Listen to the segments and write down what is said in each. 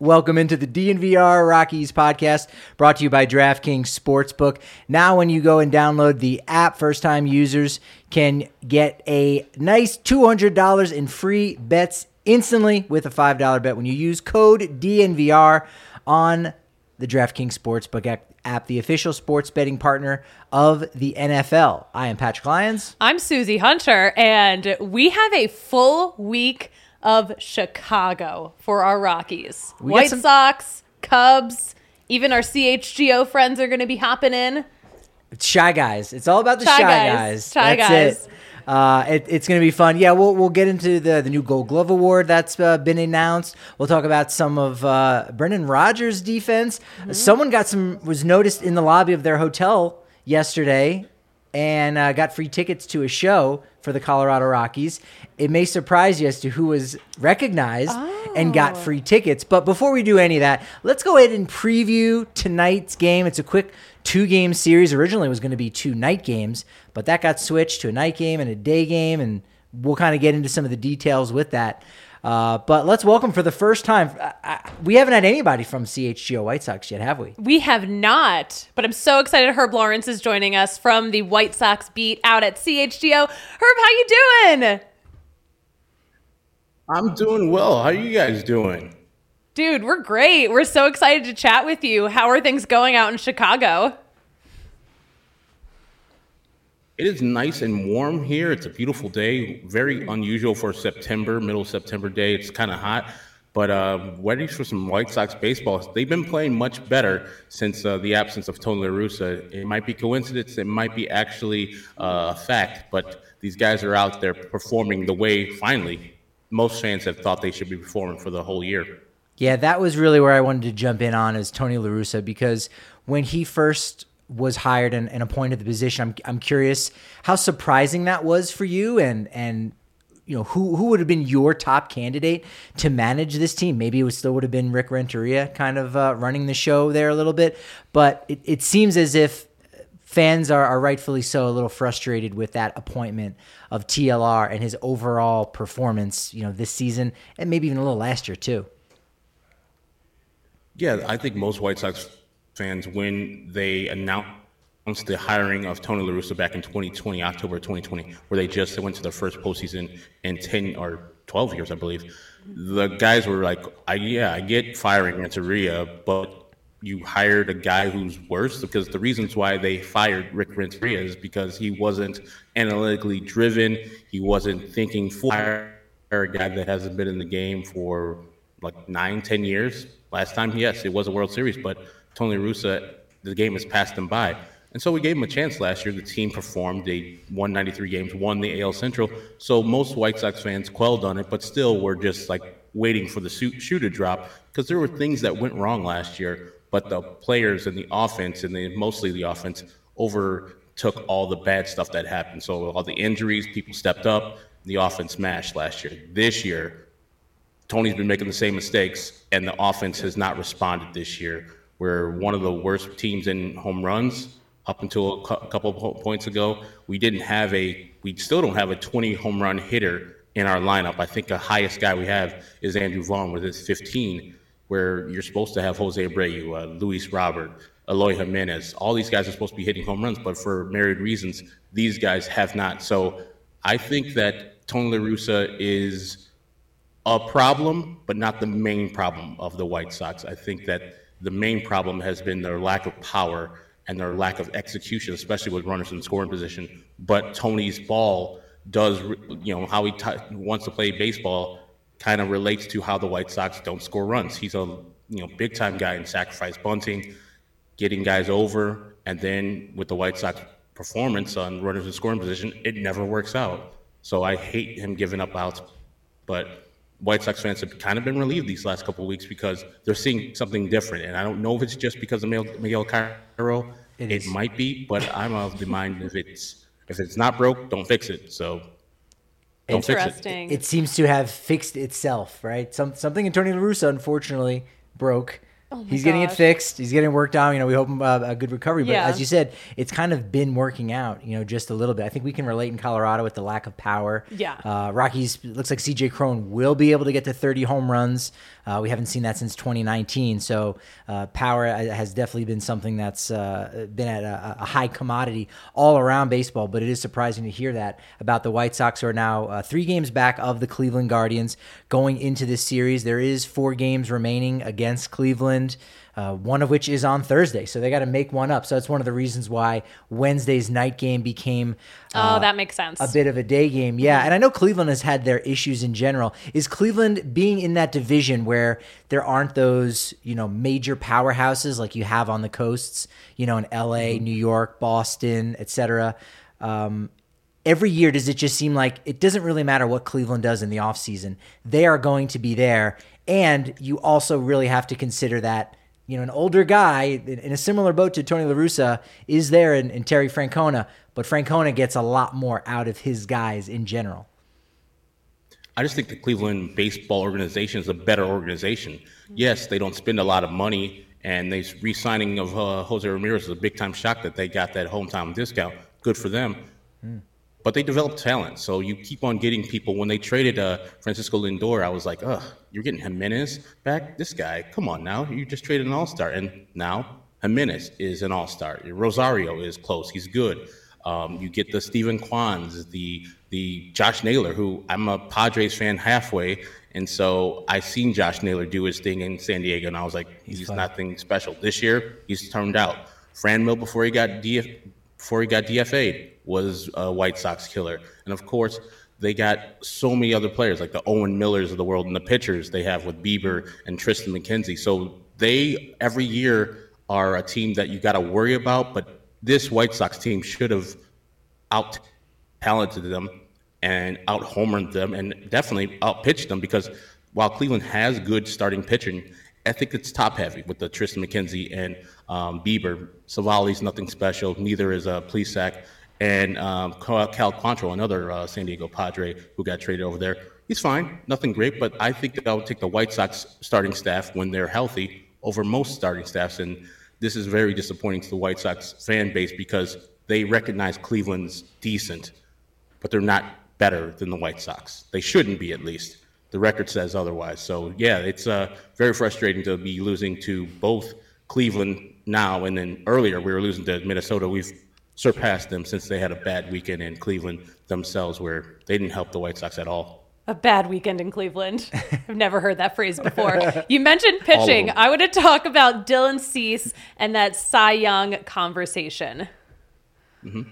Welcome into the DNVR Rockies podcast, brought to you by DraftKings Sportsbook. Now when you go and download the app, first-time users can get a nice $200 in free bets instantly with a $5 bet when you use code DNVR on the DraftKings Sportsbook app, the official sports betting partner of the NFL. I am Patrick Lyons. I'm Susie Hunter, and we have a full week of Chicago for our Rockies. White Sox, Cubs, even our CHGO friends are going to be hopping in. Shy Guys. It's all about the Shy Guys. That's it. It's going to be fun. Yeah, we'll get into the new Gold Glove Award that's been announced. We'll talk about some of Brendan Rodgers' defense. Mm-hmm. Someone was noticed in the lobby of their hotel yesterday and got free tickets to a show for the Colorado Rockies. It may surprise you as to who was recognized and got free tickets. But before we do any of that, let's go ahead and preview tonight's game. It's a quick 2-game series. Originally it was going to be 2 night games, but that got switched to a night game and a day game, and we'll kind of get into some of the details with that. But let's welcome for the first time. We haven't had anybody from CHGO White Sox yet, have we? We have not, but I'm so excited Herb Lawrence is joining us from the White Sox beat out at CHGO. Herb, how you doing? I'm doing well. How are you guys doing? Dude, we're great. We're so excited to chat with you. How are things going out in Chicago? It is nice and warm here. It's a beautiful day. Very unusual for September, middle September day. It's kind of hot, but ready for some White Sox baseball. They've been playing much better since the absence of Tony La Russa. It might be coincidence. It might be actually a fact, but these guys are out there performing the way, finally, most fans have thought they should be performing for the whole year. Yeah, that was really where I wanted to jump in on, is Tony La Russa, because when he first was hired and appointed the position, I'm curious how surprising that was for you, and you know, who would have been your top candidate to manage this team. Maybe it still would have been Rick Renteria kind of running the show there a little bit, but it seems as if fans are rightfully so a little frustrated with that appointment of TLR and his overall performance, you know, this season and maybe even a little last year too. Yeah, I think most White Sox fans, when they announced the hiring of Tony La Russa back in 2020, October 2020, where they just went to their first postseason in 10 or 12 years, I believe, the guys were like, I get firing Renteria, but you hired a guy who's worse. Because the reasons why they fired Rick Renteria is because he wasn't analytically driven. He wasn't thinking full. A guy that hasn't been in the game for like 9-10 years. Last time, yes, it was a World Series, but Tony La Russa, the game has passed him by. And so we gave him a chance last year. The team performed. They won 93 games, won the AL Central. So most White Sox fans quelled on it, but still were just like waiting for the shoe to drop, because there were things that went wrong last year, but the players and the offense, and mostly the offense, overtook all the bad stuff that happened. So all the injuries, people stepped up, the offense smashed last year. This year, Tony's been making the same mistakes, and the offense has not responded this year. We're one of the worst teams in home runs. Up until a couple of points ago, we still don't have a 20 home run hitter in our lineup. I think the highest guy we have is Andrew Vaughn with his 15, where you're supposed to have Jose Abreu, Luis Robert, Eloy Jimenez. All these guys are supposed to be hitting home runs, but for myriad reasons, these guys have not. So I think that Tony La Russa is a problem, but not the main problem of the White Sox. I think that the main problem has been their lack of power and their lack of execution, especially with runners in scoring position. But Tony's ball does, how he wants to play baseball kind of relates to how the White Sox don't score runs. He's a big time guy in sacrifice bunting, getting guys over, and then with the White Sox performance on runners in scoring position, it never works out. So I hate him giving up outs, but White Sox fans have kind of been relieved these last couple of weeks because they're seeing something different. And I don't know if it's just because of Miguel Cairo. It might be, but I'm of the mind if it's not broke, don't fix it. So don't fix it. It seems to have fixed itself, right? Something in Tony La Russa, unfortunately, broke. He's getting it fixed. He's getting worked on. We hope a good recovery. But as you said, it's kind of been working out, just a little bit. I think we can relate in Colorado with the lack of power. Yeah. Rockies, looks like C.J. Cron will be able to get to 30 home runs. We haven't seen that since 2019. So power has definitely been something that's been at a high commodity all around baseball. But it is surprising to hear that about the White Sox, who are now 3 games back of the Cleveland Guardians going into this series. There is 4 games remaining against Cleveland. One of which is on Thursday, so they got to make one up. So that's one of the reasons why Wednesday's night game became that makes sense, a bit of a day game. Yeah, and I know Cleveland has had their issues in general. Is Cleveland being in that division where there aren't those major powerhouses like you have on the coasts, in LA, New York, Boston, etc. Every year, does it just seem like it doesn't really matter what Cleveland does in the offseason? They are going to be there. And you also really have to consider that, an older guy in a similar boat to Tony La Russa is there in Terry Francona, but Francona gets a lot more out of his guys in general. I just think the Cleveland baseball organization is a better organization. Yes, they don't spend a lot of money, and the re-signing of Jose Ramirez is a big-time shock that they got that hometown discount. Good for them. But they develop talent, so you keep on getting people. When they traded Francisco Lindor, I was like, ugh, you're getting Jimenez back? This guy, come on now. You just traded an all-star, and now Jimenez is an all-star. Rosario is close. He's good. You get the Steven Kwans, the Josh Naylor, who I'm a Padres fan halfway, and so I seen Josh Naylor do his thing in San Diego, and I was like, he's nothing special. This year, he's turned out. Franmil, before he got DFA'd, was a White Sox killer. And of course, they got so many other players like the Owen Millers of the world and the pitchers they have with Bieber and Tristan McKenzie. So they every year are a team that you got to worry about. But this White Sox team should have out-talented them and out-homered them and definitely out-pitched them, because while Cleveland has good starting pitching, I think it's top-heavy with the Tristan McKenzie and Bieber. Savali's nothing special. Neither is Plesac. And Cal Quantrill, another San Diego Padre who got traded over there. He's fine, nothing great, but I think that I would take the White Sox starting staff when they're healthy over most starting staffs. And this is very disappointing to the White Sox fan base because they recognize Cleveland's decent, but they're not better than the White Sox. They shouldn't be, at least. The record says otherwise. So, yeah, it's very frustrating to be losing to both Cleveland now, and then earlier we were losing to Minnesota. We've surpassed them since they had a bad weekend in Cleveland themselves where they didn't help the White Sox at all. A bad weekend in Cleveland. I've never heard that phrase before. You mentioned pitching. I want to talk about Dylan Cease and that Cy Young conversation. Mm-hmm.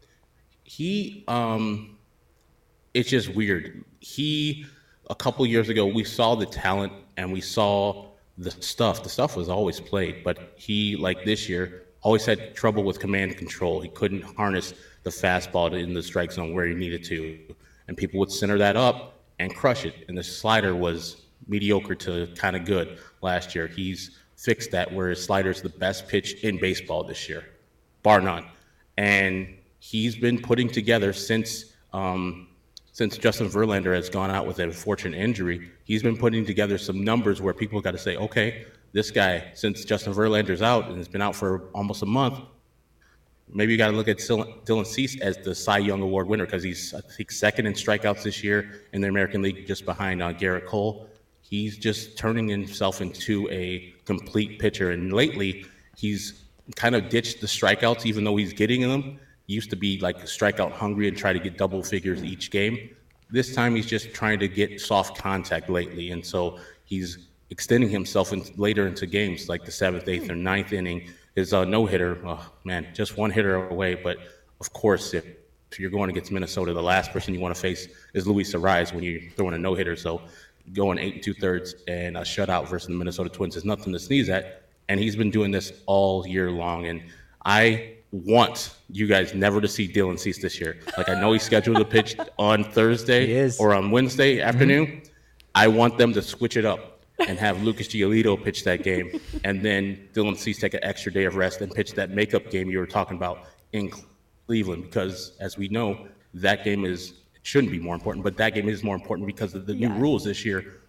It's just weird. A couple years ago, we saw the talent and we saw the stuff. The stuff was always played, but he, like this year, always had trouble with command control. He couldn't harness the fastball in the strike zone where he needed to. And people would center that up and crush it. And the slider was mediocre to kind of good last year. He's fixed that, where his slider is the best pitch in baseball this year, bar none. And he's been putting together since Justin Verlander has gone out with an unfortunate injury, he's been putting together some numbers where people got to say, okay, this guy, since Justin Verlander's out and has been out for almost a month, maybe you got to look at Dylan Cease as the Cy Young Award winner, because he's, I think, second in strikeouts this year in the American League, just behind Garrett Cole. He's just turning himself into a complete pitcher. And lately, he's kind of ditched the strikeouts, even though he's getting them. He used to be like strikeout hungry and try to get double figures each game. This time, he's just trying to get soft contact lately. And so he's extending himself later into games, like the 7th, 8th, or 9th inning. His no-hitter, oh, man, just one hitter away. But, of course, if you're going against Minnesota, the last person you want to face is Luis Arraez when you're throwing a no-hitter. So going 8 2/3 and a shutout versus the Minnesota Twins is nothing to sneeze at. And he's been doing this all year long. And I want you guys never to see Dylan Cease this year. Like, I know he's scheduled to pitch on Thursday or on Wednesday afternoon. Mm-hmm. I want them to switch it up and have Lucas Giolito pitch that game, and then Dylan Cease take an extra day of rest and pitch that makeup game you were talking about in Cleveland, because, as we know, that game shouldn't be more important, but that game is more important because of the new rules this year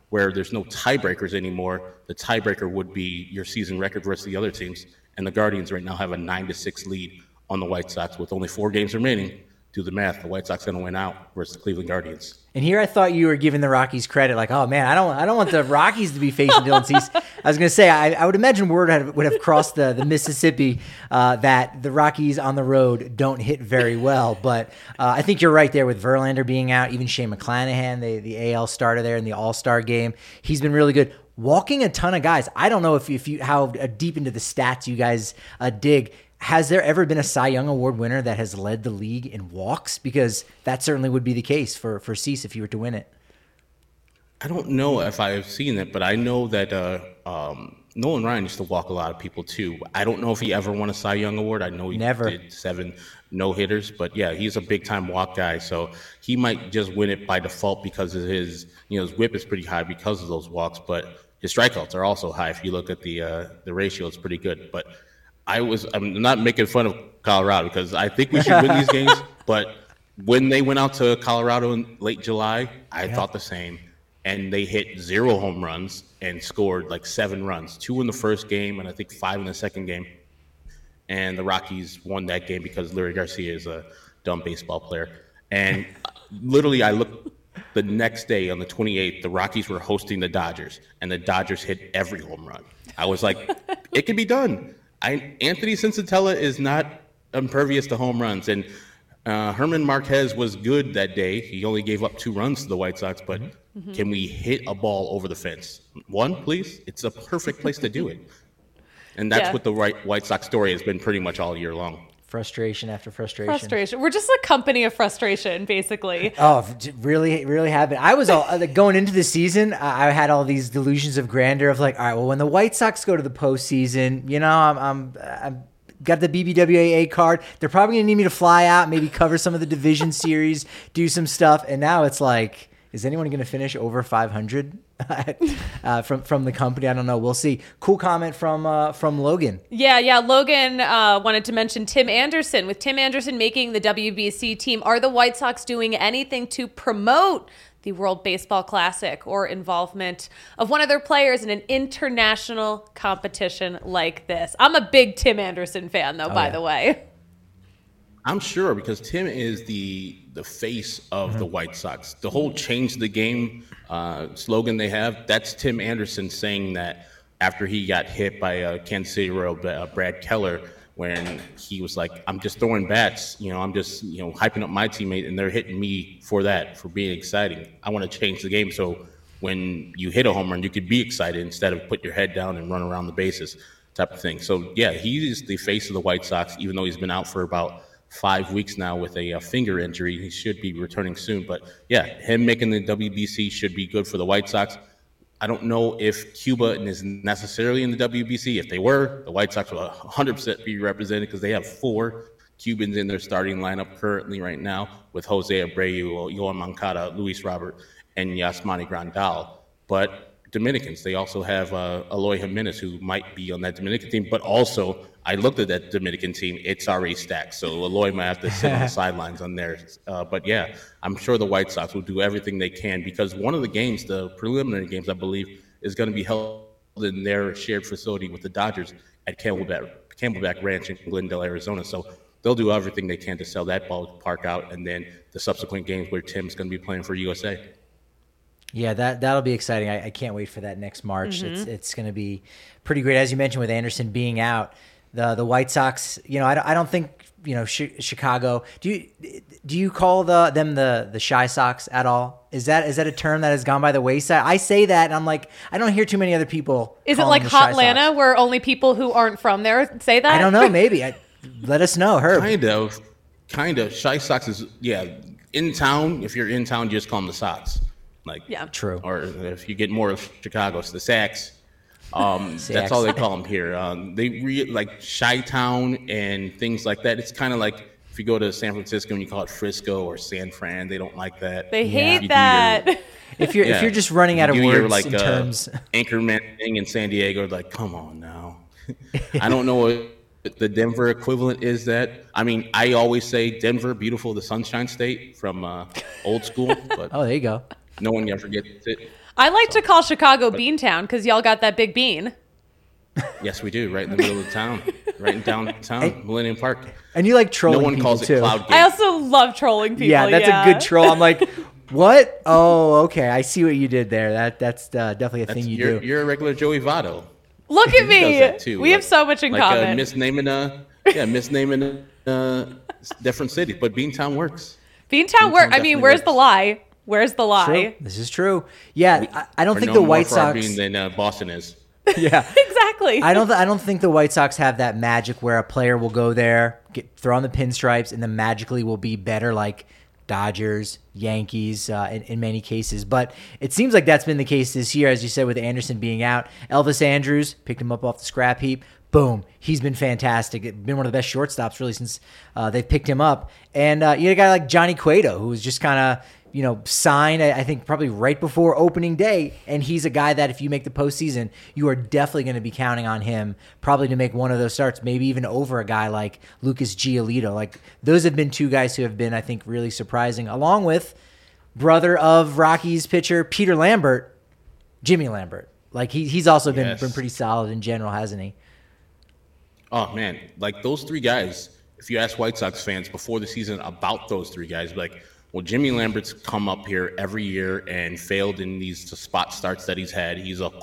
where there's no tiebreakers anymore. The tiebreaker would be your season record versus the other teams. And the Guardians right now have a 9-6 lead on the White Sox with only 4 games remaining. Do the math. The White Sox going to win out versus the Cleveland Guardians. And here I thought you were giving the Rockies credit, like, oh man, I don't want the Rockies to be facing Dylan Cease. I was going to say, I would imagine word would have crossed the Mississippi that the Rockies on the road don't hit very well. But I think you're right there with Verlander being out, even Shane McClanahan, the AL starter there in the All-Star game. He's been really good. Walking a ton of guys. I don't know if you how deep into the stats you guys dig. Has there ever been a Cy Young Award winner that has led the league in walks? Because that certainly would be the case for Cease if you were to win it. I don't know if I've seen it, but I know that Nolan Ryan used to walk a lot of people too. I don't know if he ever won a Cy Young Award. I know he did 7 no-hitters, but yeah, he's a big-time walk guy, so he might just win it by default because of his whip is pretty high because of those walks, but his strikeouts are also high. If you look at the ratio, it's pretty good, but I'm not making fun of Colorado because I think we should win these games. But when they went out to Colorado in late July, I thought the same. And they hit 0 home runs and scored like 7 runs, 2 in the first game and I think 5 in the second game. And the Rockies won that game because Leury Garcia is a dumb baseball player. And literally I looked the next day on the 28th, the Rockies were hosting the Dodgers. And the Dodgers hit every home run. I was like, it can be done. Anthony Sensatella is not impervious to home runs, and Herman Marquez was good that day. He only gave up 2 runs to the White Sox, but can we hit a ball over the fence? 1, please? It's a perfect place to do it. And that's what the White Sox story has been pretty much all year long. Frustration after frustration. We're just a company of frustration, basically. Oh, really, really have been. I was going into the season. I had all these delusions of grandeur of like, all right, well, when the White Sox go to the postseason, I'm got the BBWAA card. They're probably gonna need me to fly out, maybe cover some of the division series, do some stuff. And now it's like, is anyone going to finish over 500 from the company? I don't know. We'll see. Cool comment from Logan. Yeah. Logan wanted to mention Tim Anderson. With Tim Anderson making the WBC team, are the White Sox doing anything to promote the World Baseball Classic or involvement of one of their players in an international competition like this? I'm a big Tim Anderson fan, though, by the way. I'm sure because Tim is the face of the White Sox. The whole change the game slogan they have, that's Tim Anderson saying that after he got hit by Kansas City Royal Brad Keller when he was like, I'm just throwing bats, I'm just hyping up my teammate and they're hitting me for being exciting. I want to change the game so when you hit a home run, you could be excited instead of put your head down and run around the bases type of thing. So yeah, he is the face of the White Sox, even though he's been out for about 5 weeks now with a finger injury. He should be returning soon. But yeah, him making the WBC should be good for the White Sox. I don't know if Cuba is necessarily in the WBC. If they were, the White Sox will 100% be represented because they have 4 Cubans in their starting lineup currently right now with Jose Abreu, Yoan Moncada, Luis Robert, and Yasmani Grandal. But Dominicans, they also have Eloy Jimenez, who might be on that Dominican team, but also I looked at that Dominican team, it's already stacked, so Eloy might have to sit on the sidelines on there. But yeah, I'm sure the White Sox will do everything they can because one of the games, the preliminary games, I believe, is going to be held in their shared facility with the Dodgers at Camelback Ranch in Glendale, Arizona. So they'll do everything they can to sell that ballpark out, and then the subsequent games where Tim's going to be playing for USA. Yeah, that'll be exciting. I can't wait for that next March. It's going to be pretty great. As you mentioned, with Anderson being out, the White Sox, I don't think, Chicago. Do you call them the Shy Sox at all? Is that a term that has gone by the wayside? I say that, and I'm like, I don't hear too many other people. Is it like Hotlanta, where only people who aren't from there say that? I don't know. Maybe. Let us know, Herb. Kind of. Shy Sox is in town. If you're in town, you just call them the Sox. True. Or if you get more of Chicago, it's the Sacks. That's all they call them here. They like Chi-Town and things like that. It's kind of like if you go to San Francisco and you call it Frisco or San Fran, they don't like that. They hate that. If you're just running out of words in terms, Anchorman thing in San Diego, like, come on now. I don't know what the Denver equivalent is. That I mean, I always say Denver, beautiful, the Sunshine State from old school. But oh, there you go. No one ever gets it. I like to call Chicago Beantown because y'all got that big bean. Yes, we do. Right in the middle of town. Right in downtown, Millennium Park. And you like trolling people, no one calls too. It Cloud Gate. I also love trolling people. Yeah, that's a good troll. I'm like, what? Oh, okay. I see what you did there. That's definitely a thing you do. You're a regular Joey Votto. Look at me. We have so much in common. Misnaming different cities, but Beantown works. Beantown works. I mean, where's the lie? Where's the lie? True. This is true. Yeah, I don't think the White Sox than Boston is. Yeah, exactly. I don't think the White Sox have that magic where a player will go there, throw on the pinstripes, and then magically will be better like Dodgers, Yankees in many cases. But it seems like that's been the case this year, as you said, with Anderson being out. Elvis Andrus picked him up off the scrap heap. Boom. He's been fantastic. Been one of the best shortstops really since they've picked him up. And you had a guy like Johnny Cueto, who was just kind of signed, I think, probably right before opening day. And he's a guy that if you make the postseason, you are definitely going to be counting on him probably to make one of those starts, maybe even over a guy like Lucas Giolito. Like, those have been two guys who have been, I think, really surprising, along with brother of Rockies pitcher Peter Lambert, Jimmy Lambert. Like, he's also been pretty solid in general, hasn't he? Oh, man. Like, those three guys, if you ask White Sox fans before the season about those three guys, like, well, Jimmy Lambert's come up here every year and failed in these spot starts that he's had. He's a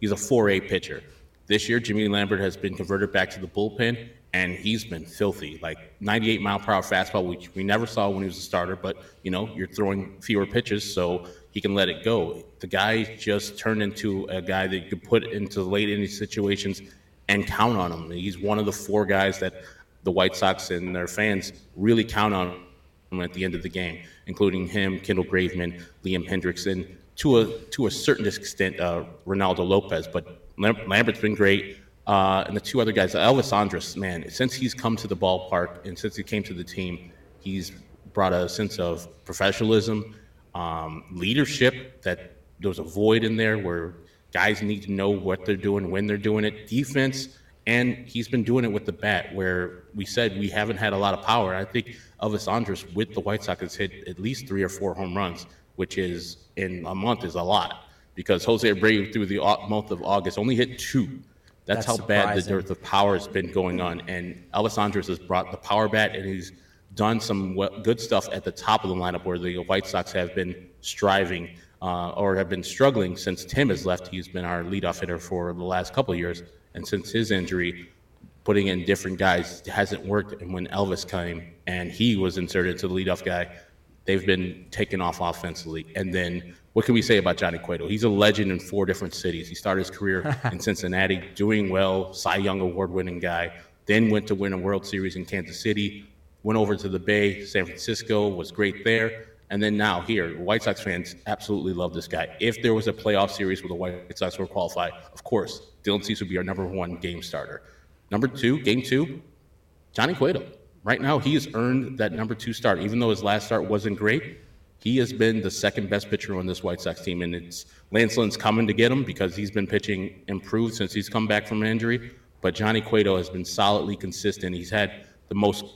4A pitcher. This year, Jimmy Lambert has been converted back to the bullpen, and he's been filthy. Like 98-mile-per-hour fastball, which we never saw when he was a starter. But you're throwing fewer pitches, so he can let it go. The guy just turned into a guy that you could put into late inning situations and count on him. He's one of the four guys that the White Sox and their fans really count on at the end of the game, including him, Kendall Graveman, Liam Hendricks, and to a certain extent, Ronaldo Lopez. But Lambert's been great. And the two other guys, Elvis Andrus, man, since he's come to the ballpark and since he came to the team, he's brought a sense of professionalism, leadership, that there was a void in there where guys need to know what they're doing, when they're doing it, defense. And he's been doing it with the bat, where we said we haven't had a lot of power. I think Elvis Andrus with the White Sox has hit at least 3 or 4 home runs, which is in a month is a lot, because Jose Abreu through the month of August only hit 2. That's how bad the dearth of power has been going on. And Elvis Andrus has brought the power bat, and he's done some good stuff at the top of the lineup where the White Sox have been striving or have been struggling since Tim has left. He's been our leadoff hitter for the last couple of years. And since his injury, putting in different guys hasn't worked. And when Elvis came and he was inserted into the leadoff guy, they've been taken off offensively. And then what can we say about Johnny Cueto? He's a legend in 4 different cities. He started his career in Cincinnati, doing well, Cy Young award-winning guy, then went to win a World Series in Kansas City, went over to the Bay, San Francisco, was great there. And then now here, White Sox fans absolutely love this guy. If there was a playoff series where the White Sox were qualified, of course, Dylan Cease would be our number 1 game starter. Number 2, game 2, Johnny Cueto. Right now, he has earned that number 2 start. Even though his last start wasn't great, he has been the second best pitcher on this White Sox team. And it's Lance Lynn's coming to get him because he's been pitching improved since he's come back from an injury. But Johnny Cueto has been solidly consistent. He's had the most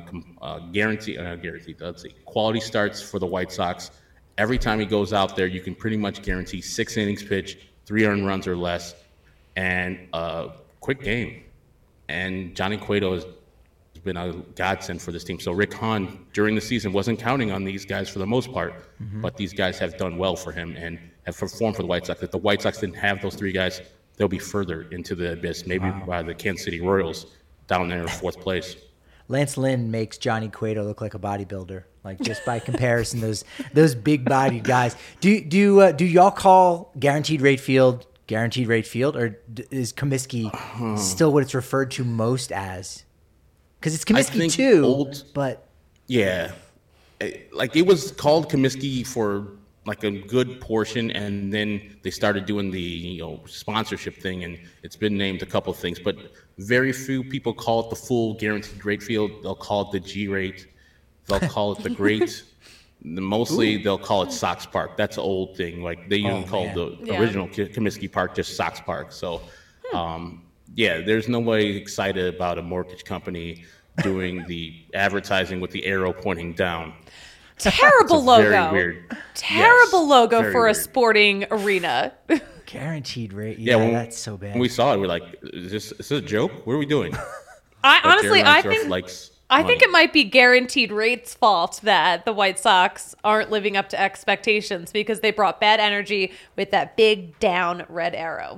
quality starts for the White Sox. Every time he goes out there, you can pretty much guarantee 6 innings pitched, 3 earned runs or less, and a quick game. And Johnny Cueto has been a godsend for this team. So Rick Hahn, during the season, wasn't counting on these guys for the most part, but these guys have done well for him and have performed for the White Sox. If the White Sox didn't have those 3 guys, they'll be further into the abyss, maybe by the Kansas City Royals down there in 4th place. Lance Lynn makes Johnny Cueto look like a bodybuilder, like just by comparison. those big-bodied guys. Do y'all call guaranteed rate field, or is Comiskey still what it's referred to most as? Because it's Comiskey too, but yeah, like it was called Comiskey for like a good portion, and then they started doing the sponsorship thing, and it's been named a couple of things, but very few people call it the full guaranteed rate field. They'll call it the G rate. They'll call it the great. Mostly they'll call it Sox Park. That's an old thing. Like they even called the original Comiskey Park just Sox Park. So there's nobody excited about a mortgage company doing the advertising with the arrow pointing down. Terrible logo. Very weird. Terrible logo for weird. A sporting arena. Guaranteed rate. Yeah, that's so bad. When we saw it, we're like, is this a joke? What are we doing? I think it might be Guaranteed Rate's fault that the White Sox aren't living up to expectations because they brought bad energy with that big down red arrow.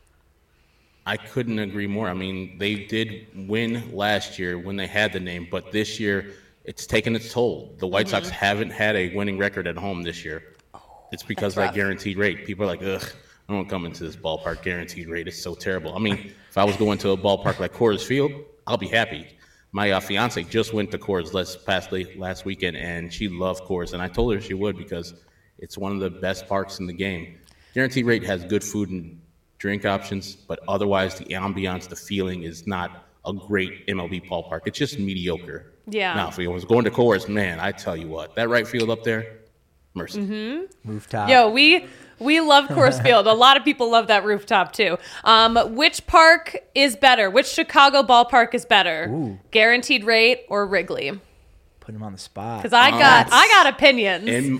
I couldn't agree more. I mean, they did win last year when they had the name, but this year it's taken its toll. The White Sox haven't had a winning record at home this year. It's because of that Guaranteed Rate. People are like, ugh, I don't come into this ballpark. Guaranteed Rate is so terrible. I mean, if I was going to a ballpark like Coors Field, I'll be happy. My fiance just went to Coors last weekend, and she loved Coors, and I told her she would because it's one of the best parks in the game. Guaranteed Rate has good food and drink options, but otherwise the ambiance, the feeling is not a great MLB ballpark. It's just mediocre. Yeah. Now, if we was going to Coors, man, I tell you what, that right field up there, mercy. Rooftop. Yo, we love Coors Field. A lot of people love that rooftop too. Which park is better? Which Chicago ballpark is better? Ooh. Guaranteed Rate or Wrigley? Put him on the spot. Because I got opinions.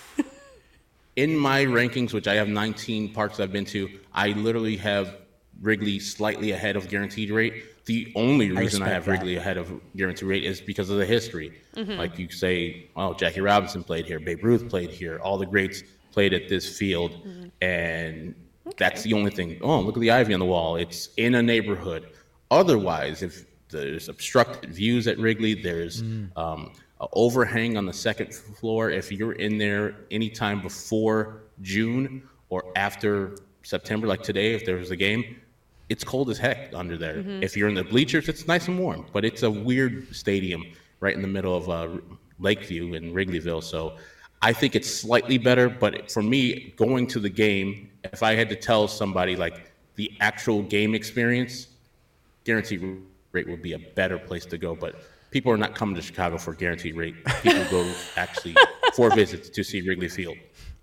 In my rankings, which I have 19 parks I've been to, I literally have Wrigley slightly ahead of Guaranteed Rate. The only reason I have Wrigley ahead of Guaranteed Rate is because of the history. Like you say, oh, Jackie Robinson played here, Babe Ruth played here, all the greats played at this field, and that's the only thing. Oh, look at the ivy on the wall. It's in a neighborhood. Otherwise, if there's obstructed views at Wrigley, there's an overhang on the second floor. If you're in there anytime before June or after September, like today, if there was a game, it's cold as heck under there. If you're in the bleachers, it's nice and warm, but it's a weird stadium right in the middle of Lakeview in Wrigleyville. So I think it's slightly better, but for me, going to the game, if I had to tell somebody like the actual game experience, Guaranteed Rate would be a better place to go. But people are not coming to Chicago for Guaranteed Rate. People go actually for visits to see Wrigley Field.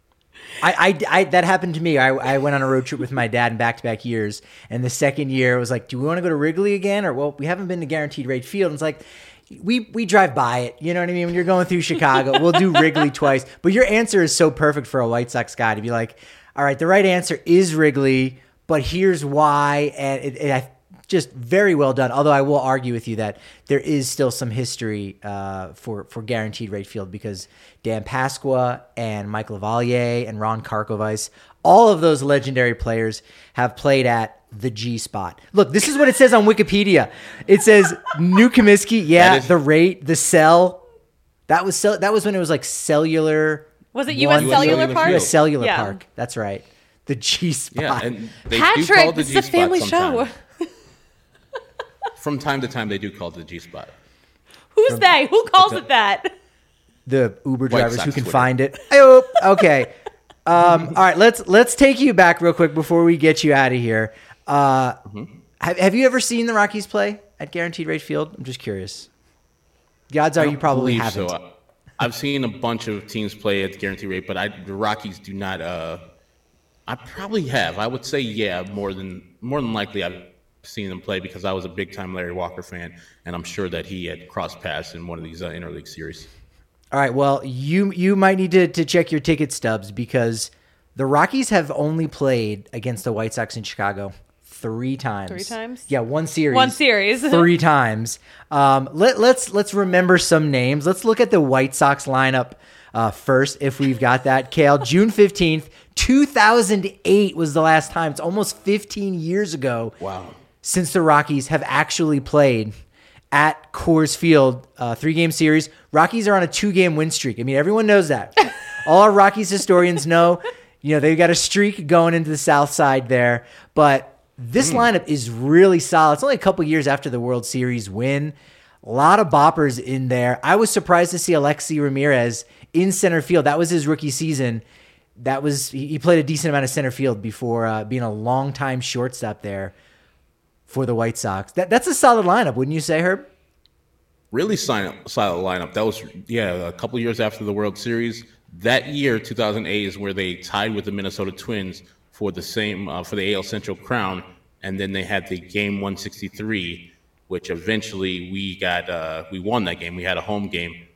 I that happened to me. I went on a road trip with my dad in back-to-back years, and the second year it was like, do we want to go to Wrigley again? Or, well, we haven't been to Guaranteed Rate Field. And it's like, we drive by it. You know what I mean? When you're going through Chicago, we'll do Wrigley twice. But your answer is so perfect for a White Sox guy to be like, all right, the right answer is Wrigley, but here's why. And just very well done. Although I will argue with you that there is still some history for Guaranteed Rate Field because Dan Pasqua and Mike LaValliere and Ron Karkovice, all of those legendary players have played at the G spot. Look, this is what it says on Wikipedia. It says New Comiskey, the rate, the cell. That was when it was like cellular. Was it U.S. Cellular Park? U.S. Cellular Park. That's right. The G spot. Yeah, and they Patrick, do call it the this G is a family spot show. From time to time, they do call it the G spot. Who's they? Who calls it that? The Uber drivers who can Twitter. find it. Oh, okay. All right, let's take you back real quick before we get you out of here. Have you ever seen the Rockies play at Guaranteed Rate Field? I'm just curious. The odds are you probably haven't. So. I've seen a bunch of teams play at Guaranteed Rate, but the Rockies do not. I probably have. I would say more than likely I've seen them play because I was a big time Larry Walker fan, and I'm sure that he had crossed paths in one of these interleague series. All right, well, you might need to check your ticket stubs because the Rockies have only played against the White Sox in Chicago 3 times. 3 times? Yeah, one series. 3 times. Let's remember some names. Let's look at the White Sox lineup first, if we've got that. Kale, June 15th, 2008 was the last time. It's almost 15 years ago. Wow. Since the Rockies have actually played at Coors Field, 3-game series. Rockies are on a 2-game win streak. I mean, everyone knows that. All our Rockies historians know, they've got a streak going into the South Side there. But this lineup is really solid. It's only a couple years after the World Series win. A lot of boppers in there. I was surprised to see Alexi Ramirez in center field. That was his rookie season. He played a decent amount of center field before being a long-time shortstop there for the White Sox. That's a solid lineup, wouldn't you say, Herb? Really solid lineup. That was, a couple years after the World Series. That year, 2008, is where they tied with the Minnesota Twins for the for the AL Central crown, and then they had the game 163, which eventually we won that game. We had a home game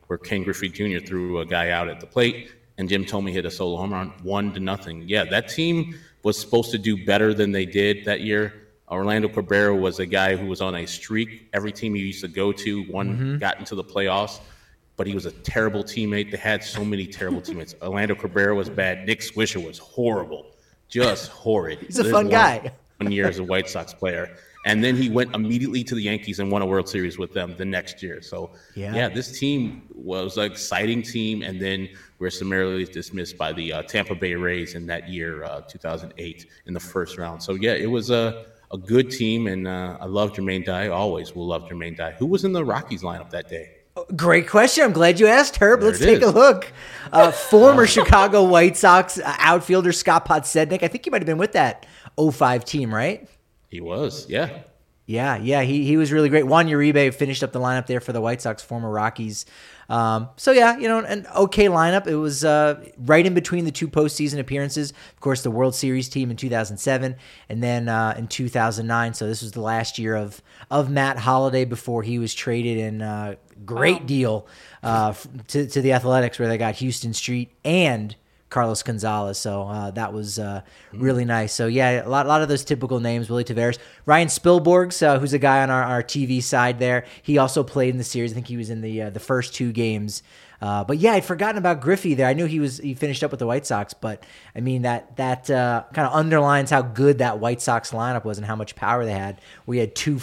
where Ken Griffey Jr. threw a guy out at the plate, and Jim Thome hit a solo home run, 1-0. Yeah, that team was supposed to do better than they did that year. Orlando Cabrera was a guy who was on a streak. Every team he used to go to, got into the playoffs, but he was a terrible teammate. They had so many terrible teammates. Orlando Cabrera was bad. Nick Swisher was horrible, just horrid. He's a fun guy. 1 year as a White Sox player. And then he went immediately to the Yankees and won a World Series with them the next year. So, yeah this team was an exciting team. And then we were summarily dismissed by the Tampa Bay Rays in that year, 2008, in the first round. So, yeah, it was a good team. And I love Jermaine Dye. Always will love Jermaine Dye. Who was in the Rockies lineup that day? Great question. I'm glad you asked, Herb. Let's take a look. Former Chicago White Sox outfielder Scott Podsednik. I think he might have been with that 05 team, right? He was, yeah. Yeah. He was really great. Juan Uribe finished up the lineup there for the White Sox, former Rockies. An okay lineup. It was right in between the two postseason appearances. Of course, the World Series team in 2007 and then in 2009. So this was the last year of Matt Holliday before he was traded in great deal to the Athletics, where they got Houston Street and Carlos Gonzalez. So that was really nice. So, yeah, a lot of those typical names, Willie Taveras. Ryan Spilborghs, who's a guy on our TV side there. He also played in the series. I think he was in the first two games. But, yeah, I'd forgotten about Griffey there. I knew he finished up with the White Sox. But, I mean, that kind of underlines how good that White Sox lineup was and how much power they had. We had two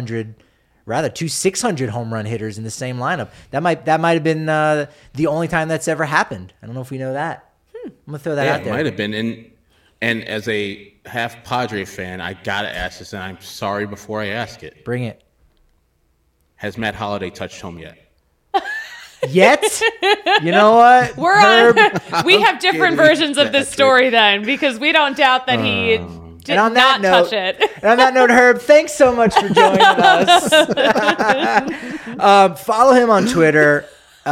600 home run hitters in the same lineup. That might have been the only time that's ever happened. I don't know if we know that. I'm going to throw that out there. It might have been. And as a half Padre fan, I got to ask this, and I'm sorry before I ask it. Bring it. Has Matt Holliday touched home yet? Yet? You know what? We have different versions of this story then, because we don't doubt that he did not touch it. And on that note, Herb, thanks so much for joining us. Follow him on Twitter.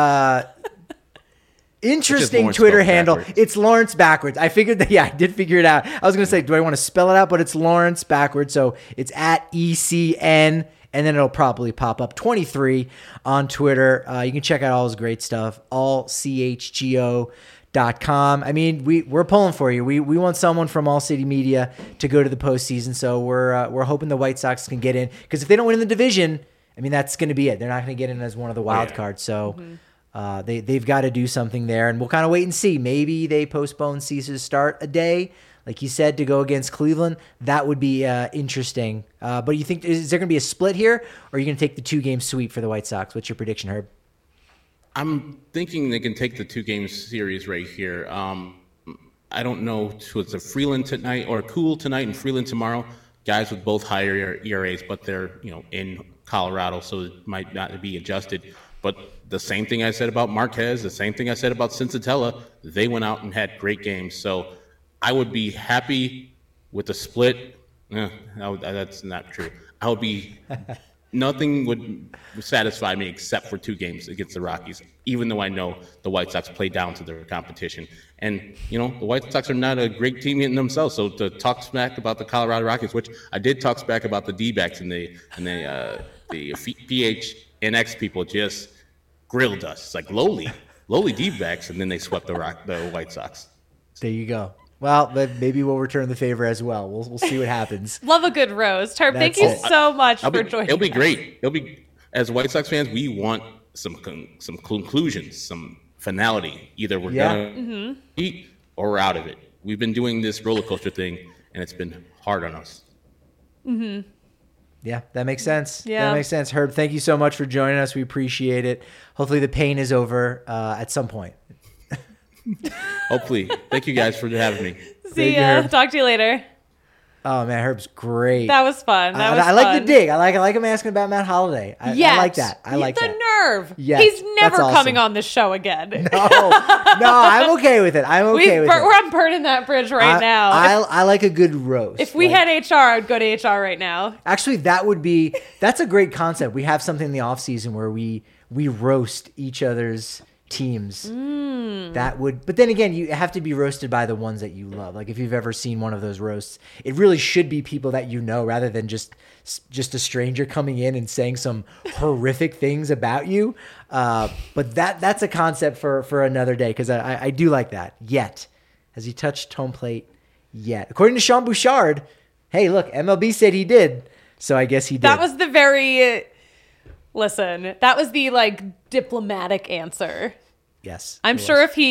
Interesting Twitter handle. Backwards. It's Lawrence backwards. I figured that. Yeah, I did figure it out. I was going to say, do I want to spell it out? But it's Lawrence backwards. So it's at ECN, and then it'll probably pop up 23 on Twitter. You can check out all his great stuff, allchgo.com. I mean, we're pulling for you. We want someone from All City Media to go to the postseason. So we're hoping the White Sox can get in, because if they don't win in the division, I mean, that's going to be it. They're not going to get in as one of the wild cards. So. They've got to do something there, and we'll kind of wait and see. Maybe they postpone Cease's start a day, like you said, to go against Cleveland. That would be interesting. But you think, is there going to be a split here, or are you going to take the 2-game sweep for the White Sox? What's your prediction, Herb? I'm thinking they can take the 2-game series right here. I don't know. So it's a Freeland tonight or Cool tonight and Freeland tomorrow. Guys with both higher ERAs, but they're in Colorado, so it might not be adjusted. But the same thing I said about Marquez, the same thing I said about Cincinnati, they went out and had great games. So I would be happy with the split. That's not true. I would be nothing would satisfy me except for 2 games against the Rockies, even though I know the White Sox play down to their competition. And, the White Sox are not a great team in themselves. So to talk smack about the Colorado Rockies, which I did talk smack about the D-backs and the PHNX people just grilled us. It's like lowly D-backs, and then they swept the White Sox. There you go. Well, but maybe we'll return the favor as well. We'll see what happens. Love a good roast. Herb, thank you so much for joining us. It'll be great. As White Sox fans, we want some conclusions, some finality. Either we're going to eat or we're out of it. We've been doing this roller coaster thing, and it's been hard on us. Mm-hmm. Yeah, that makes sense. Yeah. That makes sense. Herb, thank you so much for joining us. We appreciate it. Hopefully the pain is over at some point. Hopefully. Thank you guys for having me. See ya. Talk to you later. Oh, man, Herb's great. That was fun. I like the dig. I like him asking about Matt Holliday. I like that. I like that. The nerve. Yes, he's never coming on this show again. No, I'm okay with it. I'm burning that bridge right now. I like a good roast. If we had HR, I would go to HR right now. Actually, that's a great concept. We have something in the off season where we roast each other's teams that would, but then again, you have to be roasted by the ones that you love. Like if you've ever seen one of those roasts, it really should be people that you know rather than just a stranger coming in and saying some horrific things about you. But that's a concept for another day, because I do like that. Yet, has he touched home plate yet? According to Sean Bouchard, hey, look, MLB said he did, so I guess he did. That was the very... Listen, that was the diplomatic answer. Yes. I'm sure if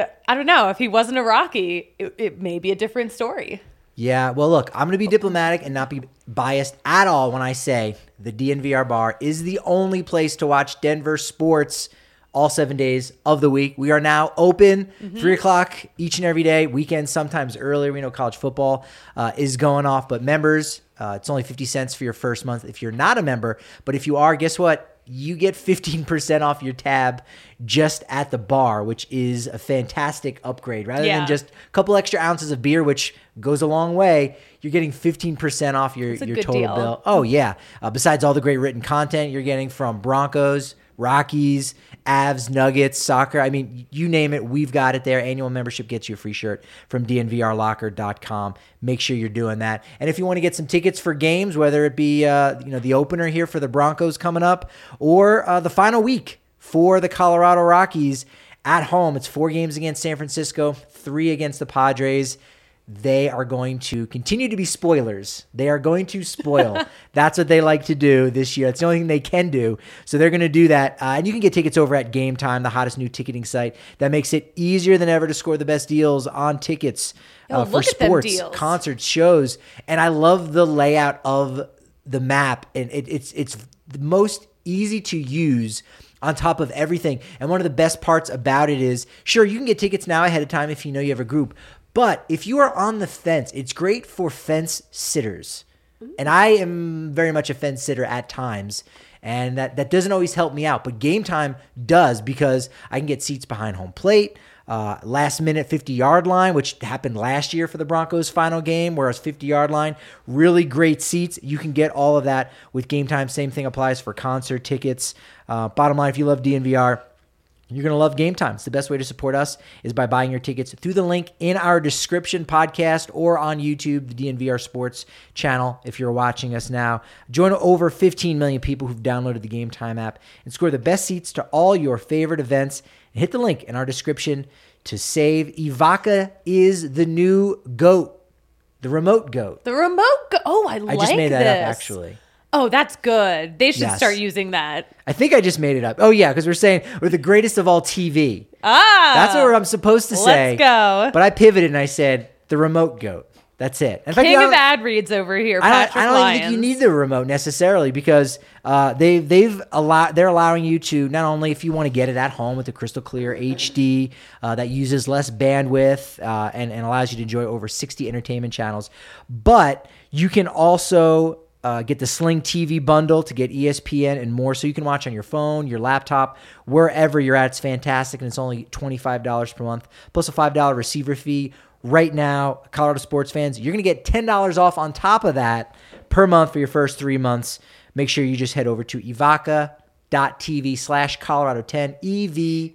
he wasn't a Rocky, it may be a different story. Yeah, well, look, I'm going to be diplomatic and not be biased at all when I say the DNVR bar is the only place to watch Denver sports all 7 days of the week. We are now open 3 o'clock each and every day, weekends sometimes earlier. We know college football is going off, but members, it's only 50 cents for your first month if you're not a member. But if you are, guess what? You get 15% off your tab just at the bar, which is a fantastic upgrade. Rather than just a couple extra ounces of beer, which goes a long way, you're getting 15% off your total bill. Oh, yeah. Besides all the great written content you're getting from Broncos, Rockies, Avs, Nuggets, soccer. I mean, you name it, we've got it there. Annual membership gets you a free shirt from DNVRlocker.com. Make sure you're doing that. And if you want to get some tickets for games, whether it be the opener here for the Broncos coming up or the final week for the Colorado Rockies at home, it's 4 games against San Francisco, 3 against the Padres. They are going to continue to be spoilers. They are going to spoil. That's what they like to do this year. It's the only thing they can do. So they're going to do that. And you can get tickets over at Game Time, the hottest new ticketing site that makes it easier than ever to score the best deals on tickets for sports, concerts, shows. And I love the layout of the map. And it's the most easy to use on top of everything. And one of the best parts about it is, sure, you can get tickets now ahead of time if you know you have a group. But if you are on the fence, it's great for fence sitters. And I am very much a fence sitter at times. And that doesn't always help me out. But Game Time does, because I can get seats behind home plate, last minute 50-yard line, which happened last year for the Broncos' final game, where it was 50-yard line. Really great seats. You can get all of that with Game Time. Same thing applies for concert tickets. Bottom line, if you love DNVR, you're going to love Game Time. It's the best way to support us is by buying your tickets through the link in our description podcast or on YouTube, the DNVR Sports channel, if you're watching us now. Join over 15 million people who've downloaded the Game Time app and score the best seats to all your favorite events. And hit the link in our description to save. Ivanka is the new GOAT, the remote GOAT. The remote GOAT. Oh, I like this. I just made that up, actually. Oh, that's good. They should start using that. I think I just made it up. Oh, yeah, because we're saying we're the greatest of all TV. That's what I'm supposed to say. Let's go. But I pivoted and I said the remote GOAT. That's it. In fact, King of ad reads over here, Patrick I don't even think you need the remote necessarily, because they're allowing you to, not only if you want to get it at home with the crystal clear HD that uses less bandwidth and allows you to enjoy over 60 entertainment channels, but you can also get the Sling TV bundle to get ESPN and more, so you can watch on your phone, your laptop, wherever you're at. It's fantastic, and it's only $25 per month, plus a $5 receiver fee. Right now, Colorado sports fans, you're going to get $10 off on top of that per month for your first 3 months. Make sure you just head over to evoca.tv/Colorado10,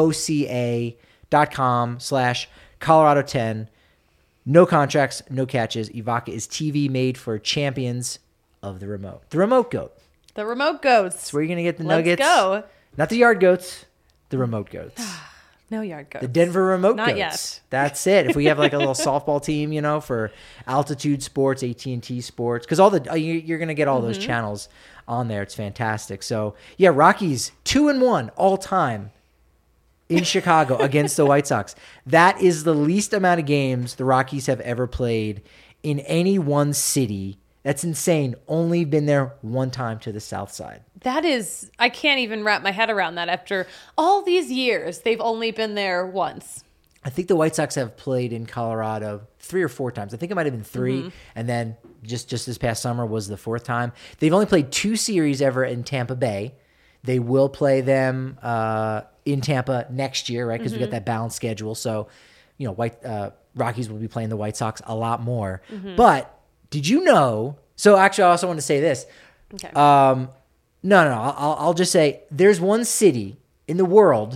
evoca.com/Colorado10. No contracts, no catches. Evoca is TV made for champions of the remote. The remote GOAT. The remote goats. That's where you're going to get the nuggets. Let's go. Not the yard goats, the remote goats. No yard goats. The Denver remote Not goats. Yet. That's it. If we have like a little softball team, for Altitude Sports, AT&T Sports, because you're going to get all those channels on there. It's fantastic. So, yeah, Rockies 2-1 all time in Chicago against the White Sox. That is the least amount of games the Rockies have ever played in any one city. That's insane. Only been there one time to the south side. That is, I can't even wrap my head around that. After all these years, they've only been there once. I think the White Sox have played in Colorado 3 or 4 times. I think it might have been 3, and then just this past summer was the 4th time. They've only played 2 series ever in Tampa Bay. They will play them in Tampa next year, right? Because we got that balanced schedule. So, Rockies will be playing the White Sox a lot more. But did you know? So actually, I also want to say this. Okay. No. I'll just say there's one city in the world,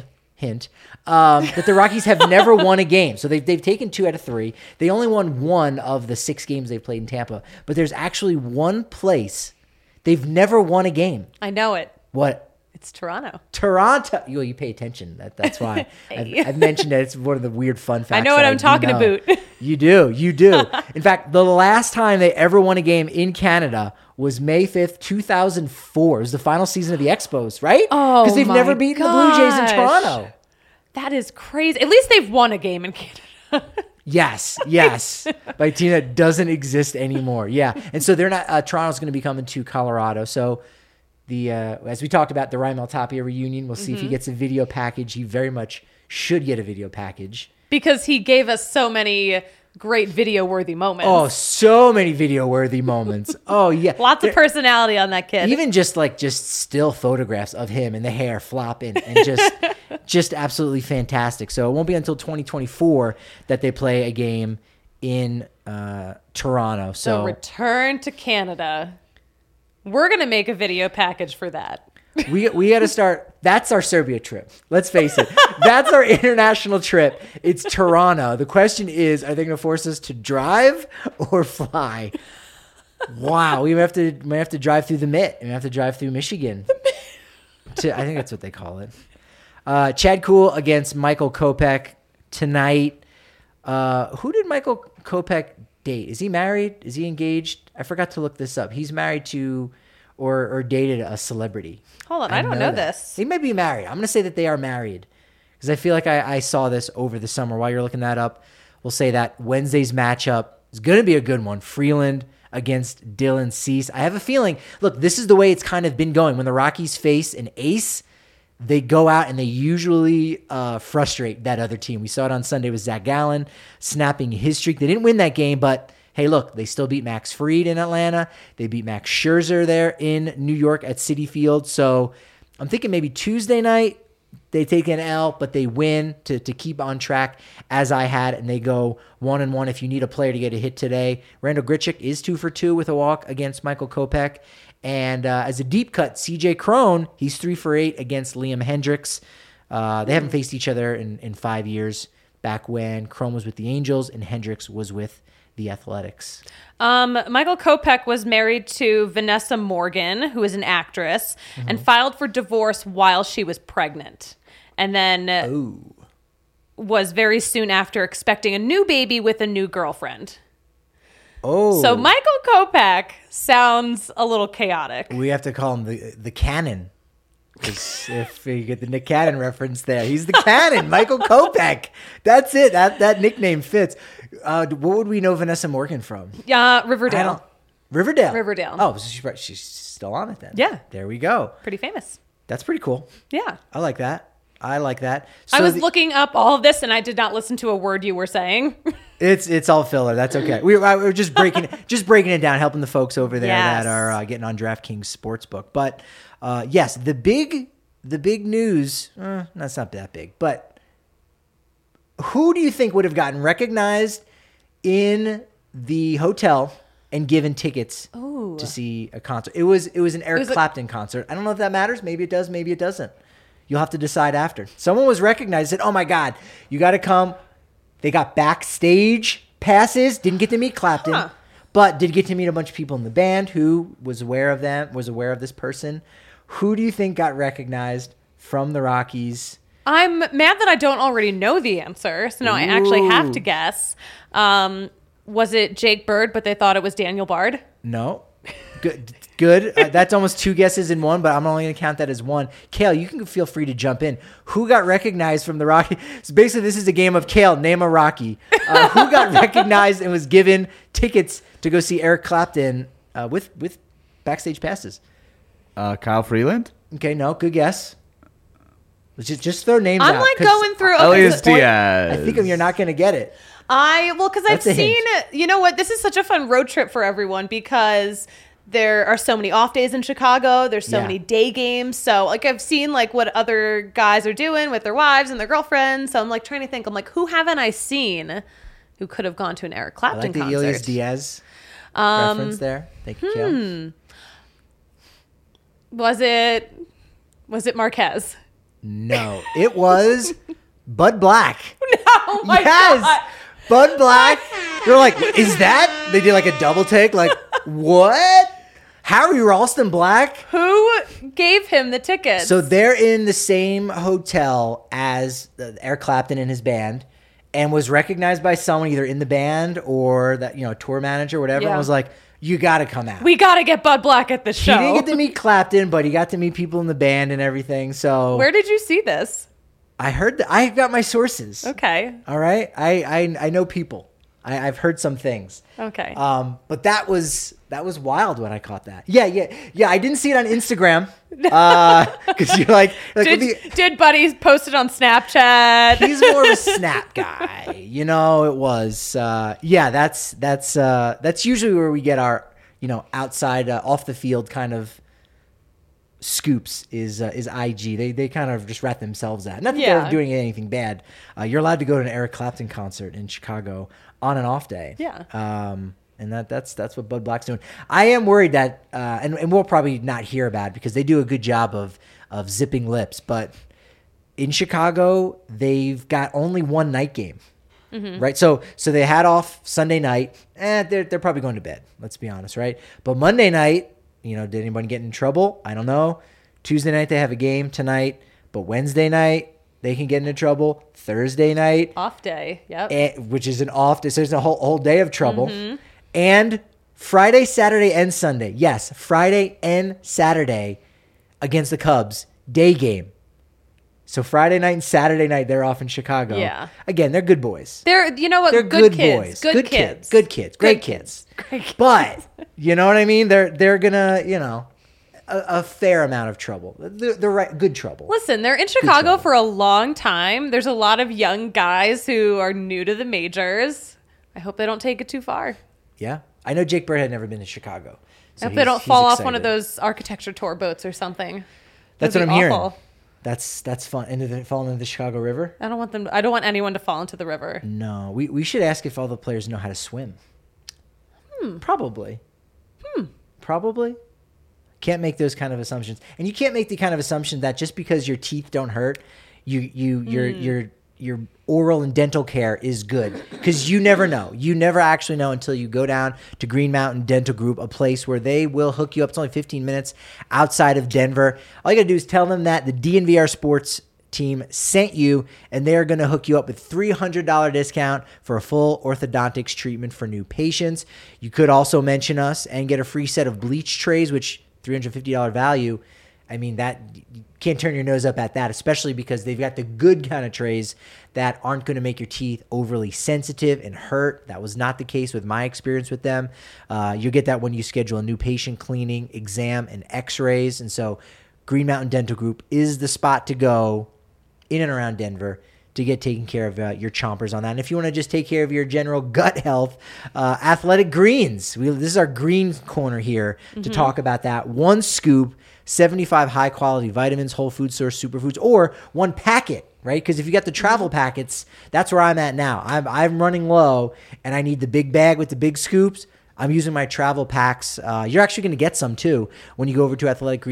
hint, that the Rockies have never won a game. So they've taken 2 out of 3. They only won 1 of the 6 games they've played in Tampa. But there's actually one place they've never won a game. I know it. What? It's Toronto. Toronto. You pay attention. That's why. Hey. I've mentioned it. It's one of the weird fun facts. I know what I'm talking about. You do. In fact, the last time they ever won a game in Canada was May 5th, 2004. It was the final season of the Expos, right? Oh, because they've never beaten the Blue Jays in Toronto. That is crazy. At least they've won a game in Canada. Yes. By a team that doesn't exist anymore. Yeah. And so they're not, Toronto's going to be coming to Colorado. So as we talked about the Raimel Tapia reunion, we'll see if he gets a video package. He very much should get a video package. Because he gave us so many great video-worthy moments. Oh, so many video-worthy moments. Oh, yeah. Lots of personality on that kid. Even just still photographs of him and the hair flopping and just absolutely fantastic. So it won't be until 2024 that they play a game in Toronto. So return to Canada. We're going to make a video package for that. We got to start. That's our Serbia trip. Let's face it. That's our international trip. It's Toronto. The question is, are they going to force us to drive or fly? Wow. We might have to drive through the Mitt. We have to drive through Michigan. I think that's what they call it. Chad Kuhl against Michael Kopech tonight. Who did Michael Kopech date? Is he married? Is he engaged? I forgot to look this up. He's married to or dated a celebrity. Hold on, I don't know this. They might be married. I'm going to say that they are married because I feel like I saw this over the summer. While you're looking that up, we'll say that Wednesday's matchup is going to be a good one. Freeland against Dylan Cease. I have a feeling, look, this is the way it's kind of been going. When the Rockies face an ace, they go out and they usually frustrate that other team. We saw it on Sunday with Zach Gallen snapping his streak. They didn't win that game, but hey, look, they still beat Max Fried in Atlanta. They beat Max Scherzer there in New York at Citi Field. So I'm thinking maybe Tuesday night they take an L, but they win to keep on track as I had, and they go 1-1 if you need a player to get a hit today. Randall Grichuk is 2 for 2 with a walk against Michael Kopech. And as a deep cut, CJ Cron, he's 3 for 8 against Liam Hendriks. They haven't faced each other in 5 years, back when Cron was with the Angels and Hendriks was with the Athletics. Michael Kopech was married to Vanessa Morgan, who is an actress, and filed for divorce while she was pregnant. And then was very soon after expecting a new baby with a new girlfriend. Oh. So Michael Kopech sounds a little chaotic. We have to call him the Cannon. Because if you get the Nick Cannon reference there, he's the Cannon, Michael Kopech. That's it. That nickname fits. What would we know Vanessa Morgan from? Riverdale. Riverdale. Oh, so she's still on it then. Yeah. There we go. Pretty famous. That's pretty cool. Yeah. I like that. So I was looking up all of this and I did not listen to a word you were saying. It's all filler. That's okay. We're just breaking it down, helping the folks over there that are getting on DraftKings Sportsbook. But yes, the big news. That's not that big, but who do you think would have gotten recognized in the hotel and given tickets to see a concert? It was an Eric Clapton concert. I don't know if that matters. Maybe it does. Maybe it doesn't. You'll have to decide after. Someone was recognized, said, "Oh my God, you got to come." They got backstage passes. Didn't get to meet Clapton, but did get to meet a bunch of people in the band who was aware of this person. Who do you think got recognized from the Rockies? I'm mad that I don't already know the answer, so now I actually have to guess. Was it Jake Bird, but they thought it was Daniel Bard? No. Good. That's almost 2 guesses in one, but I'm only going to count that as one. Kale, you can feel free to jump in. Who got recognized from the Rockies? So basically, this is a game of Kale, name a Rocky. Who got recognized and was given tickets to go see Eric Clapton with backstage passes? Kyle Freeland? Okay, no, good guess. Just throw names out. I'm like going through. Elias Diaz. I think you're not going to get it. Because I've seen, you know what? This is such a fun road trip for everyone because there are so many off days in Chicago. There's so many day games. So like I've seen like what other guys are doing with their wives and their girlfriends. So I'm like trying to think. I'm like, who haven't I seen who could have gone to an Eric Clapton concert? Elias Diaz reference there. Thank you, Kale. Was it Marquez? No, it was Bud Black. Oh my God. Bud Black. They're like, is that? They did like a double take. Like, what? Harry Ralston Black? Who gave him the tickets? So they're in the same hotel as Eric Clapton and his band, and was recognized by someone either in the band or that, tour manager or whatever, and was like, you got to come out. We got to get Bud Black at the show. He didn't get to meet Clapton, but he got to meet people in the band and everything. So where did you see this? I heard that. I got my sources. Okay. All right. I know people. I've heard some things. Okay. But that was wild when I caught that. Yeah. I didn't see it on Instagram. Because you're like did Buddy post it on Snapchat? He's more of a Snap guy. It was. That's usually where we get our, outside off the field kind of scoops is IG. They kind of just rat themselves at. Not that they're doing anything bad. You're allowed to go to an Eric Clapton concert in Chicago on an off day. Yeah. And that's what Bud Black's doing. I am worried that, and we'll probably not hear about it because they do a good job of zipping lips. But in Chicago, they've got only one night game, right? So they had off Sunday night, and they're probably going to bed. Let's be honest, right? But Monday night, did anybody get in trouble? I don't know. Tuesday night they have a game tonight, but Wednesday night they can get into trouble. Thursday night, off day, yep, which is an off day. So there's a whole day of trouble. And Friday, Saturday, and Sunday. Yes, Friday and Saturday against the Cubs, day game. So Friday night and Saturday night, they're off in Chicago. Yeah. Again, they're good boys. They're, you know what? They're good boys. kids. Good kids. Good kids. Great kids. Great kids. But, you know what I mean? They're going to, a fair amount of trouble. The right, good trouble. Listen, they're in Chicago for a long time. There's a lot of young guys who are new to the majors. I hope they don't take it too far. Yeah. I know Jake Bird had never been to Chicago. So I hope they don't fall off one of those architecture tour boats or something. That's what I'm hearing. That's fun. And did they fall into the Chicago River? I don't want anyone to fall into the river. No. We should ask if all the players know how to swim. Probably. Probably. Can't make those kind of assumptions. And you can't make the kind of assumption that just because your teeth don't hurt, your oral and dental care is good, because you never know. You never actually know until you go down to Green Mountain Dental Group, a place where they will hook you up. It's only 15 minutes outside of Denver. All you got to do is tell them that the DNVR Sports team sent you, and they're going to hook you up with $300 discount for a full orthodontics treatment for new patients. You could also mention us and get a free set of bleach trays, which $350 value. I mean, that you can't turn your nose up at that, especially because they've got the good kind of trays that aren't going to make your teeth overly sensitive and hurt. That was not the case with my experience with them. You'll get that when you schedule a new patient cleaning, exam, and x-rays. And so Green Mountain Dental Group is the spot to go in and around Denver to get taken care of your chompers on that. And if you want to just take care of your general gut health, Athletic Greens. This is our green corner here to talk about that. One scoop, 75 high-quality vitamins, whole food source, superfoods, or one packet, right? Because if you got the travel packets, that's where I'm at now. I'm running low, and I need the big bag with the big scoops. I'm using my travel packs. You're actually going to get some, too, when you go over to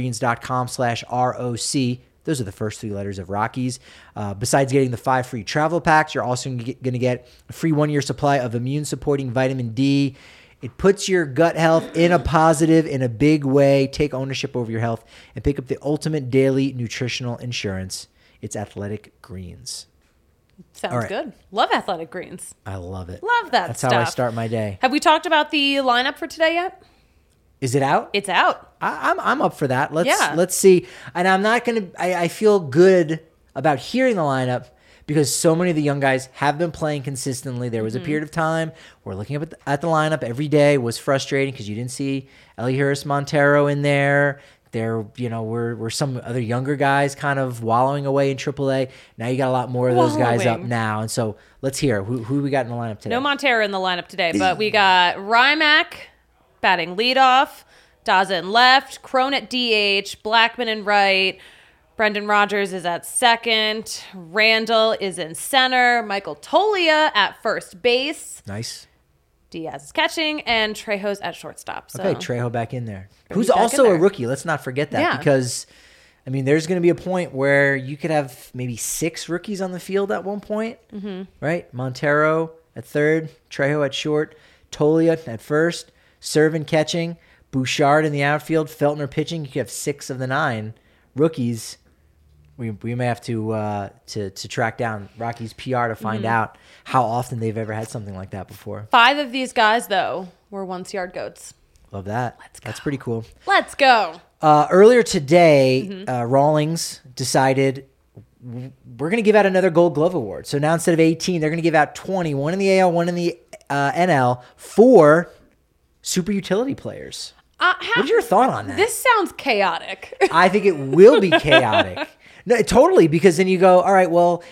athleticgreens.com/ROC. Those are the first three letters of Rockies. Besides getting the 5 free travel packs, you're also going to get a free 1-year supply of immune-supporting vitamin D. It puts your gut health in a positive in a big way. Take ownership over your health and pick up the ultimate daily nutritional insurance. It's Athletic Greens. Sounds good. Love Athletic Greens. I love it. Love that That's stuff. how I start my day. Have we talked about the lineup for today yet? Is it out? It's out. I'm up for that. Let's see. And I'm not going to, I feel good about hearing the lineup because so many of the young guys have been playing consistently. There was a period of time where looking up at the lineup every day was frustrating because you didn't see Elihuris Montero in there. There, were some other younger guys kind of wallowing away in AAA. Now you got a lot more of those guys up now. And so let's hear who we got in the lineup today. No Montero in the lineup today, but we got Rymack batting leadoff, Daza in left, Crone at DH, Blackman in right, Brendan Rodgers is at second, Randall is in center, Michael Tolia at first base. Nice. Diaz is catching, and Trejo's at shortstop. So. Okay, Trejo back in there. Who's also a rookie. Let's not forget that because I mean, there's going to be a point where you could have maybe 6 rookies on the field at one point, right? Montero at third, Trejo at short, Tolia at first, Servin catching, Bouchard in the outfield, Feltner pitching. You could have 6 of the 9 rookies. We may have to track down Rockies PR to find out how often they've ever had something like that before. 5 of these guys, though, were once-yard goats. Love that. That's pretty cool. Let's go. Earlier today, Rawlings decided we're going to give out another Gold Glove Award. So now instead of 18, they're going to give out 20, one in the AL, one in the NL, for super utility players. What's your thought on that? This sounds chaotic. I think it will be chaotic. No, totally, because then you go, all right, well,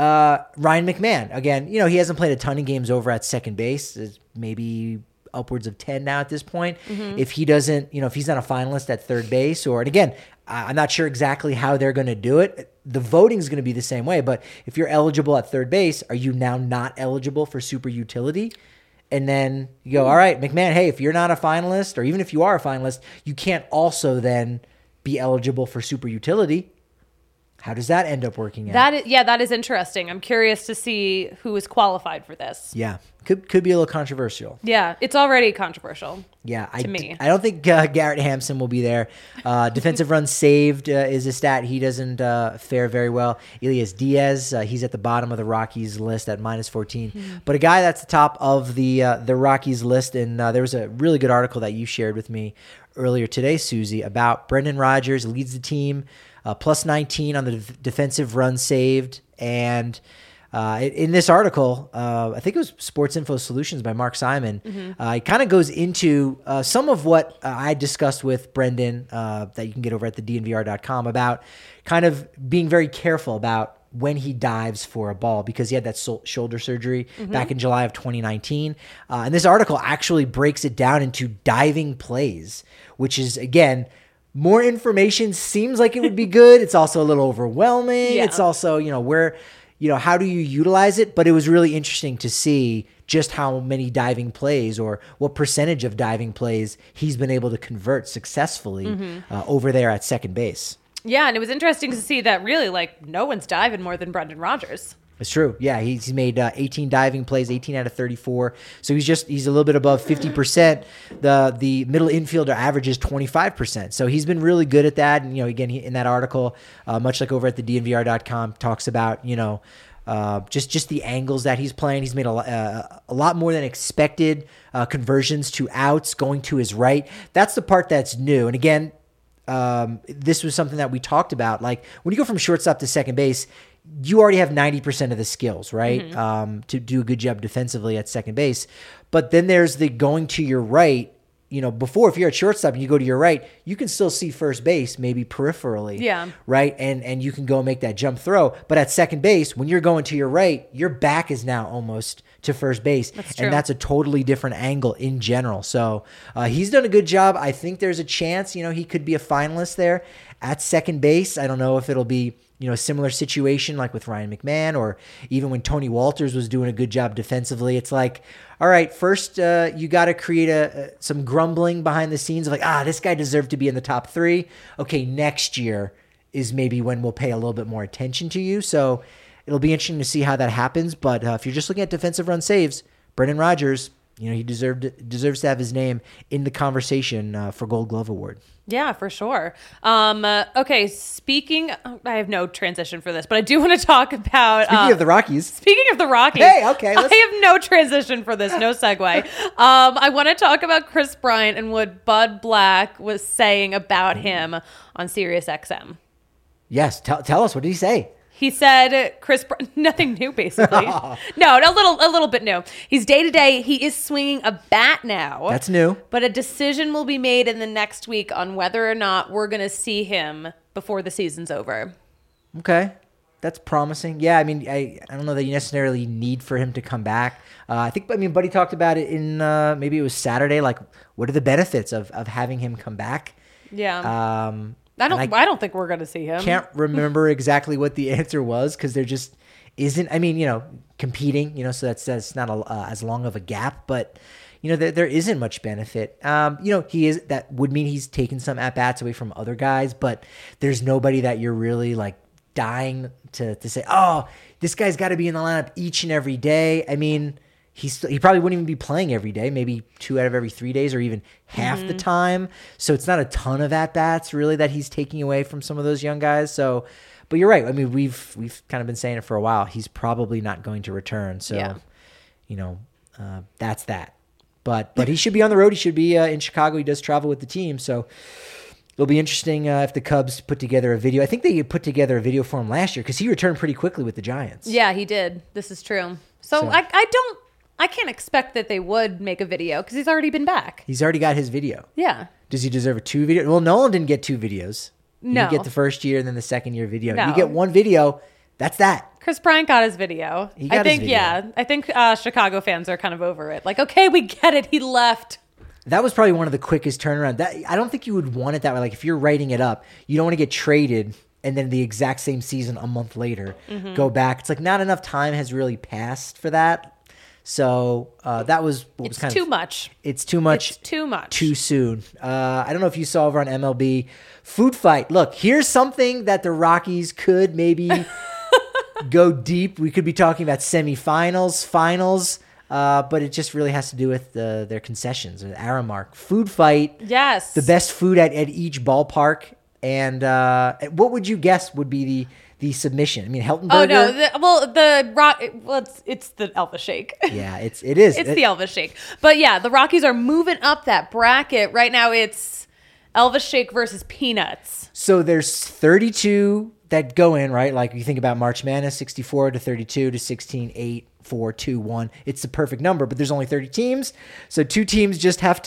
Ryan McMahon, again, he hasn't played a ton of games over at second base. It's maybe upwards of 10 now at this point. If he doesn't, if he's not a finalist at third base, and again, I'm not sure exactly how they're going to do it. The voting is going to be the same way, but if you're eligible at third base, are you now not eligible for super utility? And then you go, all right, McMahon, hey, if you're not a finalist, or even if you are a finalist, you can't also then be eligible for super utility. How does that end up working out? That is interesting. I'm curious to see who is qualified for this. Yeah, could be a little controversial. Yeah, it's already controversial. Yeah, to me. I don't think Garrett Hampson will be there. Defensive runs saved is a stat he doesn't fare very well. Elias Diaz, he's at the bottom of the Rockies list at -14. But a guy that's the top of the Rockies list, and there was a really good article that you shared with me earlier today, Susie, about Brendan Rodgers leads the team. Plus 19 on the defensive run saved. And in this article, I think it was Sports Info Solutions by Mark Simon, it kind of goes into some of what I discussed with Brendan that you can get over at the DNVR.com about kind of being very careful about when he dives for a ball, because he had that shoulder surgery back in July of 2019. And this article actually breaks it down into diving plays, which is, again, more information seems like it would be good. It's also a little overwhelming. Yeah. It's also, how do you utilize it? But it was really interesting to see just how many diving plays, or what percentage of diving plays he's been able to convert successfully over there at second base. Yeah, and it was interesting to see that really, no one's diving more than Brendan Rodgers. It's true. Yeah, he's made 18 diving plays, 18 out of 34. So he's a little bit above 50%. The middle infielder average is 25%. So he's been really good at that. And, again, in that article, much like over at the DNVR.com, talks about, just the angles that he's playing. He's made a lot more than expected conversions to outs going to his right. That's the part that's new. And again, this was something that we talked about. Like, when you go from shortstop to second base, you already have 90% of the skills, right? To do a good job defensively at second base. But then there's the going to your right. Before, if you're at shortstop and you go to your right, you can still see first base, maybe peripherally. Yeah. Right? And you can go make that jump throw. But at second base, when you're going to your right, your back is now almost to first base. That's true. And that's a totally different angle in general. So he's done a good job. I think there's a chance, he could be a finalist there at second base. I don't know if it'll be a similar situation like with Ryan McMahon, or even when Tony Walters was doing a good job defensively. It's like, all right, first you got to create some grumbling behind the scenes of like, this guy deserved to be in the top 3. Okay, next year is maybe when we'll pay a little bit more attention to you. So it'll be interesting to see how that happens. But if you're just looking at defensive run saves, Brendan Rodgers, he deserves to have his name in the conversation for Gold Glove Award. Yeah, for sure. Okay, I have no transition for this, but I do want to talk about... Speaking of the Rockies. Hey, okay. I have no transition for this, no segue. I want to talk about Kris Bryant and what Bud Black was saying about him on SiriusXM. Yes, tell us, what did he say? He said, nothing new, basically. No, a little bit new. He's day-to-day. He is swinging a bat now. That's new. But a decision will be made in the next week on whether or not we're going to see him before the season's over. Okay. That's promising. Yeah, I mean, I don't know that you necessarily need for him to come back. Buddy talked about it in, maybe it was Saturday, like, what are the benefits of having him come back? Yeah. I don't think we're going to see him. Can't remember exactly what the answer was, because there just isn't. I mean, competing. So that's not as long of a gap. But there isn't much benefit. That would mean he's taken some at-bats away from other guys, but there's nobody that you're really like dying to say, oh, this guy's got to be in the lineup each and every day. I mean, he probably wouldn't even be playing every day, maybe 2 out of every 3 days or even half the time. So it's not a ton of at-bats really that he's taking away from some of those young guys. So, but you're right. I mean, we've kind of been saying it for a while. He's probably not going to return. So, that's that. But he should be on the road. He should be in Chicago. He does travel with the team. So it'll be interesting if the Cubs put together a video. I think they put together a video for him last year because he returned pretty quickly with the Giants. Yeah, he did. This is true. So I can't expect that they would make a video because he's already been back. He's already got his video. Yeah. Does he deserve 2 videos? Well, Nolan didn't get 2 videos. No. You get the first year and then the second year video. No. You get 1 video. That's that. Chris Bryant got his video. I think Chicago fans are kind of over it. Like, okay, we get it. He left. That was probably one of the quickest turnaround. I don't think you would want it that way. Like if you're writing it up, you don't want to get traded and then the exact same season a month later go back. It's like not enough time has really passed for that. So that was what was kind of too much. It's too much. It's too much. Too soon. I don't know if you saw over on MLB Food Fight. Look, here's something that the Rockies could maybe go deep. We could be talking about semifinals, finals, but it just really has to do with their concessions. Aramark Food Fight. Yes. The best food at each ballpark. And what would you guess would be the submission? I mean, Helton Burger. Oh no! It's the Elvis Shake. Yeah, it is. It's the Elvis Shake. But yeah, the Rockies are moving up that bracket right now. It's Elvis Shake versus Peanuts. So there's 32 that go in, right? Like you think about March Madness, 64 to 32 to 16, 8, 4, 2, 1. It's the perfect number, but there's only 30 teams, so two teams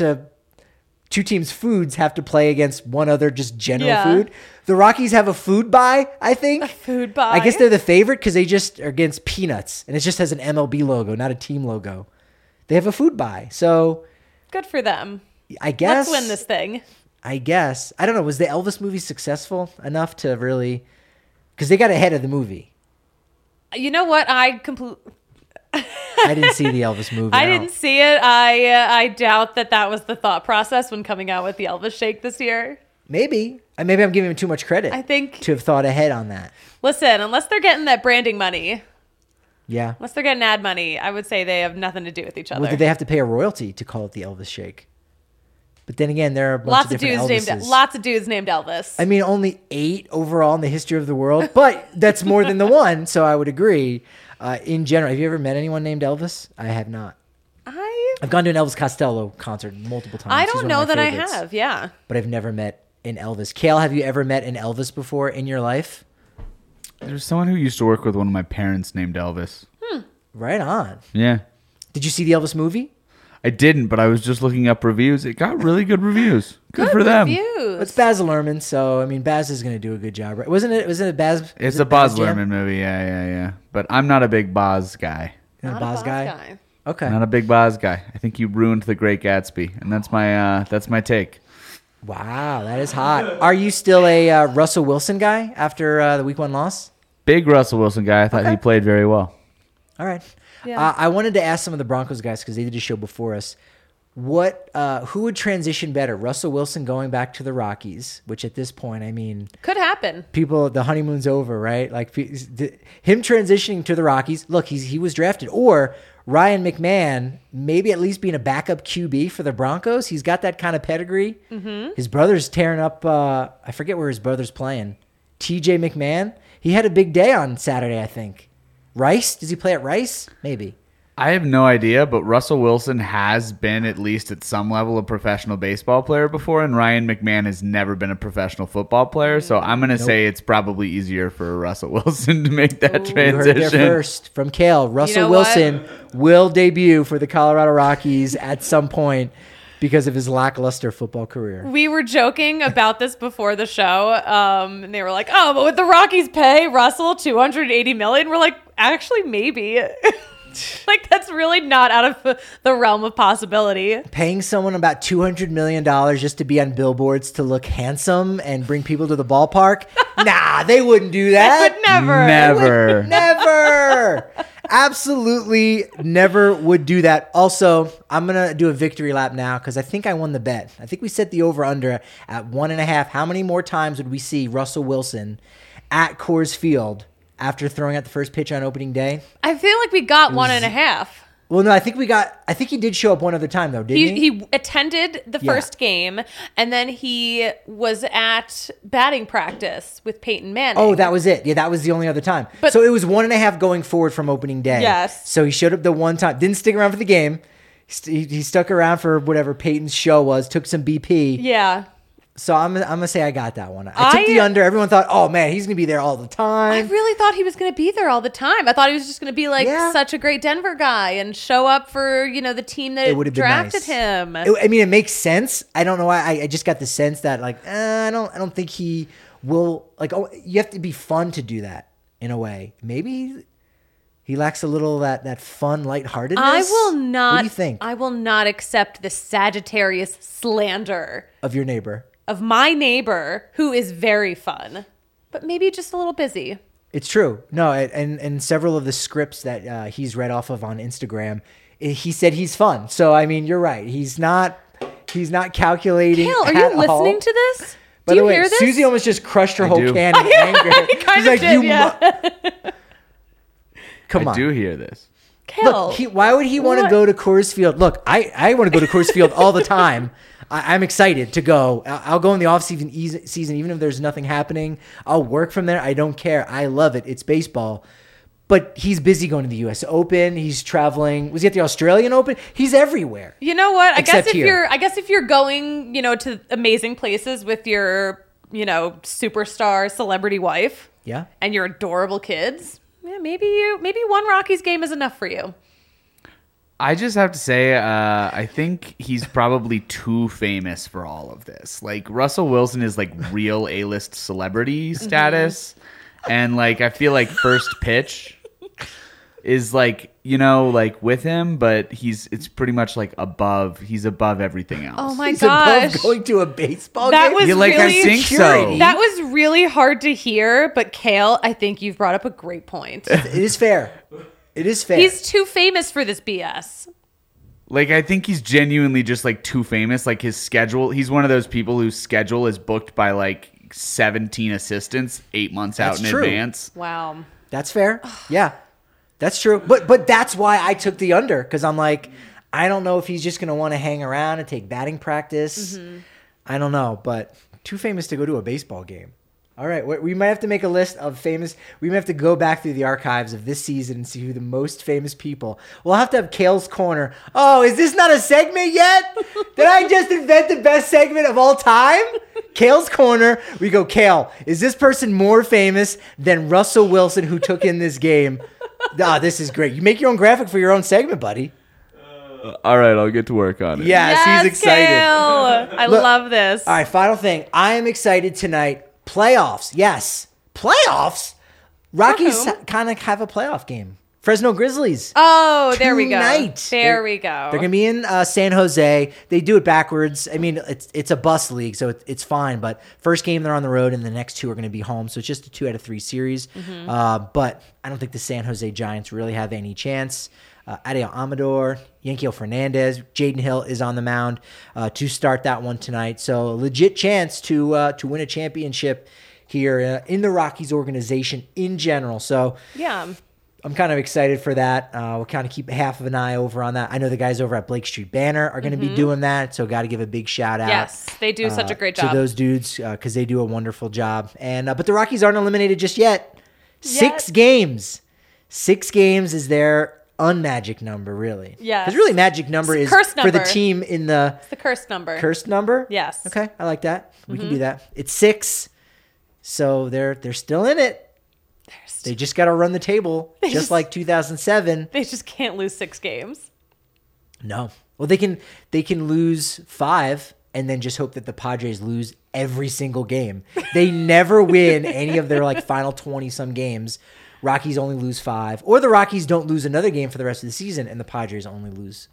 foods have to play against one other just general food. The Rockies have a food buy, I think. A food buy? I guess they're the favorite because they just are against Peanuts, and it just has an MLB logo, not a team logo. They have a food buy, so... Good for them. I guess... Let's win this thing. I guess. I don't know. Was the Elvis movie successful enough to really... Because they got ahead of the movie. You know what? I didn't see the Elvis movie. I didn't see it. I doubt that was the thought process when coming out with the Elvis Shake this year. Maybe I'm giving him too much credit. I think to have thought ahead on that. Listen, unless they're getting that branding money. Yeah. Unless they're getting ad money, I would say they have nothing to do with each other. Well, did they have to pay a royalty to call it the Elvis Shake? But then again, there are a bunch of different Elvises. Lots of dudes named Elvis. I mean, only 8 overall in the history of the world, but that's more than the one, so I would agree. In general, have you ever met anyone named Elvis? I have not. I've gone to an Elvis Costello concert multiple times. I don't know that I have, yeah. But I've never met an Elvis. Kale, have you ever met an Elvis before in your life? There's someone who used to work with one of my parents named Elvis. Right on. Yeah. Did you see the Elvis movie? I didn't, but I was just looking up reviews. It got really good reviews. Good for them. It's Baz Luhrmann, so I mean, Baz is going to do a good job, right? Wasn't it Baz? It's a Baz Luhrmann movie, yeah. But I'm not a big Baz guy. You're not a Baz guy? Okay. Not a big Baz guy. I think you ruined The Great Gatsby, and that's my take. Wow, that is hot. Are you still a Russell Wilson guy after the Week 1 loss? Big Russell Wilson guy. I thought he played very well. All right. Yeah. I wanted to ask some of the Broncos guys because they did a show before us. Who would transition better? Russell Wilson going back to the Rockies, which at this point, I mean, could happen. The honeymoon's over, right? Like him transitioning to the Rockies. Look, he was drafted, or Ryan McMahon maybe at least being a backup QB for the Broncos. He's got that kind of pedigree. Mm-hmm. His brother's tearing up. I forget where his brother's playing. TJ McMahon. He had a big day on Saturday, I think. Rice? Does he play at Rice? Maybe. I have no idea, but Russell Wilson has been at least at some level a professional baseball player before, and Ryan McMahon has never been a professional football player, so I'm going to say it's probably easier for Russell Wilson to make that transition. You heard it there first from Kale. Russell Wilson will debut for the Colorado Rockies at some point because of his lackluster football career. We were joking about this before the show, and they were like, "Oh, but would the Rockies pay Russell $280 million?" We're like, "Actually, maybe." Like, that's really not out of the realm of possibility. Paying someone about $200 million just to be on billboards to look handsome and bring people to the ballpark? Nah, they wouldn't do that. They would never. Never. Absolutely never would do that. Also, I'm going to do a victory lap now because I think I won the bet. I think we set the over-under at 1.5. How many more times would we see Russell Wilson at Coors Field after throwing out the first pitch on opening day? I feel like we got 1.5. Well, no, I think he did show up one other time, though, didn't he? He attended the first game, and then he was at batting practice with Peyton Manning. Oh, that was it. Yeah, that was the only other time. So it was 1.5 going forward from opening day. Yes. So he showed up the one time. Didn't stick around for the game. He stuck around for whatever Peyton's show was, took some BP. Yeah. So I'm gonna say I got that one. I took the under. Everyone thought, oh man, he's gonna be there all the time. I really thought he was gonna be there all the time. I thought he was just gonna be like such a great Denver guy and show up for the team that drafted him. It makes sense. I don't know why. I just got the sense that I don't think he will. You have to be fun to do that in a way. Maybe he lacks a little that fun lightheartedness. I will not. What do you think? I will not accept the Sagittarius slander of your neighbor. Of my neighbor, who is very fun, but maybe just a little busy. It's true. No, and several of the scripts that he's read off of on Instagram, he said he's fun. So, I mean, you're right. He's not calculating. Kale, are you listening to this? By the way, hear this? Susie almost just crushed her whole can in anger. She's like, Come on. I do hear this. Kale, look, why would he want to go to Coors Field? Look, I want to go to Coors Field all the time. I'm excited to go. I'll go in the off-season even if there's nothing happening. I'll work from there. I don't care. I love it. It's baseball. But he's busy going to the U.S. Open. He's traveling. Was he at the Australian Open? He's everywhere. You know what? I guess if you're going, to amazing places with your, superstar celebrity wife, and your adorable kids, maybe one Rockies game is enough for you. I just have to say, I think he's probably too famous for all of this. Like, Russell Wilson is like real A-list celebrity status. And I feel like first pitch is with him, but it's pretty much he's above everything else. Oh my gosh. He's above going to a baseball game? Was really, I think so. That was really hard to hear, but Kale, I think you've brought up a great point. It is fair. It is fair. He's too famous for this BS. I think he's genuinely just too famous. His schedule, he's one of those people whose schedule is booked by 17 assistants 8 months out in advance. Wow. That's fair. Yeah, that's true. But that's why I took the under, because I'm I don't know if he's just going to want to hang around and take batting practice. Mm-hmm. I don't know, but too famous to go to a baseball game. All right, we might have to make a list of famous. We might have to go back through the archives of this season and see who the most famous people. We'll have to have Kale's Corner. Oh, is this not a segment yet? Did I just invent the best segment of all time? Kale's Corner. We go, Kale, is this person more famous than Russell Wilson, who took in this game? This is great. You make your own graphic for your own segment, buddy. All right, I'll get to work on it. Yes, he's excited. Kale. I love this. All right, final thing. I am excited tonight. Playoffs, yes. Playoffs? Rockies kind of have a playoff game. Fresno Grizzlies. Oh, there we go. There we go. They're going to be in San Jose. They do it backwards. I mean, it's a bus league, so it's fine. But first game, they're on the road, and the next two are going to be home. So it's just a 2 out of 3 series. Mm-hmm. But I don't think the San Jose Giants really have any chance. Adael Amador, Yanquiel Fernandez, Jaden Hill is on the mound to start that one tonight. So a legit chance to win a championship here in the Rockies organization in general. So yeah, I'm kind of excited for that. We'll kind of keep half of an eye over on that. I know the guys over at Blake Street Banner are going to be doing that, so got to give a big shout out. Yes, they do such a great job to those dudes because they do a wonderful job. And but the Rockies aren't eliminated just yet. 6 games. 6 games is their unmagic number, really. Yeah. Because really magic number is for the team in the... It's the cursed number. Cursed number? Yes. Okay, I like that. We can do that. It's 6, so they're still in it. They just got to run the table, just like 2007. They just can't lose 6 games. No. Well, they can lose 5 and then just hope that the Padres lose every single game. They never win any of their final 20-some games. Rockies only lose 5, or the Rockies don't lose another game for the rest of the season, and the Padres only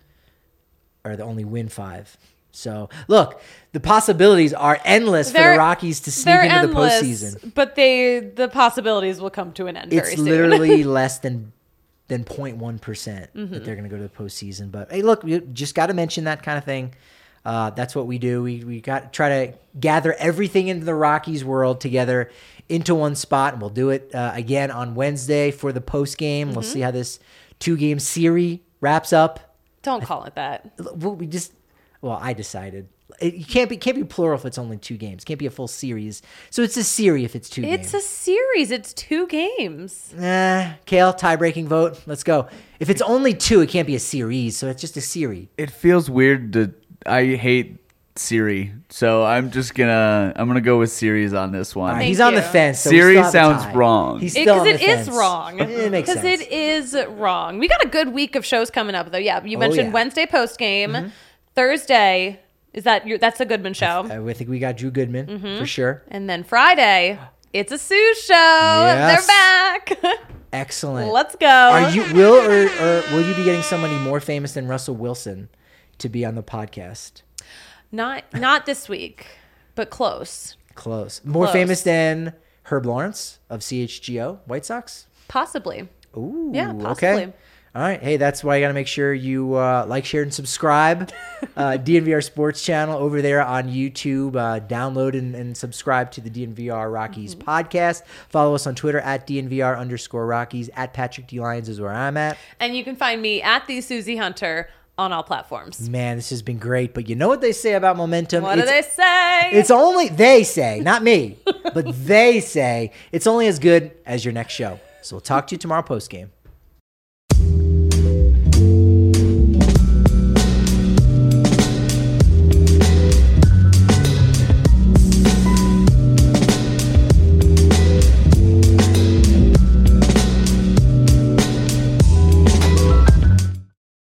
win 5. So, look, the possibilities are endless for the Rockies to sneak into the postseason. But the possibilities will come to an end very soon. It's literally less than than 0.1% that they're going to go to the postseason. But hey, look, we just got to mention that kind of thing. That's what we do. We got try to gather everything into the Rockies world together into one spot, and we'll do it again on Wednesday for the post game. We'll see how this 2-game series wraps up. Don't call it that. I decided. It can't be plural if it's only 2 games. It can't be a full series. So it's a series if it's 2 games. It's a series. It's 2 games. Kale, tie-breaking vote. Let's go. If it's only 2, it can't be a series. So it's just a series. It feels weird I hate Siri, so I'm gonna go with series on this one. He's on the fence. So Siri sounds wrong. He's still on the fence. Is wrong. It makes sense. Because it is wrong. We got a good week of shows coming up, though. Yeah, you mentioned Wednesday post game, Thursday. That's a Goodman show? I think we got Drew Goodman for sure. And then Friday, it's a Sue show. Yes. They're back. Excellent. Let's go. Will you be getting somebody more famous than Russell Wilson to be on the podcast? Not this week, but close. More famous than Herb Lawrence of CHGO White Sox? Possibly. Ooh, yeah, possibly. Okay. All right. Hey, that's why you got to make sure you like, share, and subscribe. DNVR Sports channel over there on YouTube. Download and subscribe to the DNVR Rockies podcast. Follow us on Twitter at DNVR_Rockies. At Patrick D. Lyons is where I'm at. And you can find me at the Susie Hunter on all platforms. Man, this has been great. But you know what they say about momentum? What do they say? It's only, they say, not me, but they say it's only as good as your next show. So we'll talk to you tomorrow post game.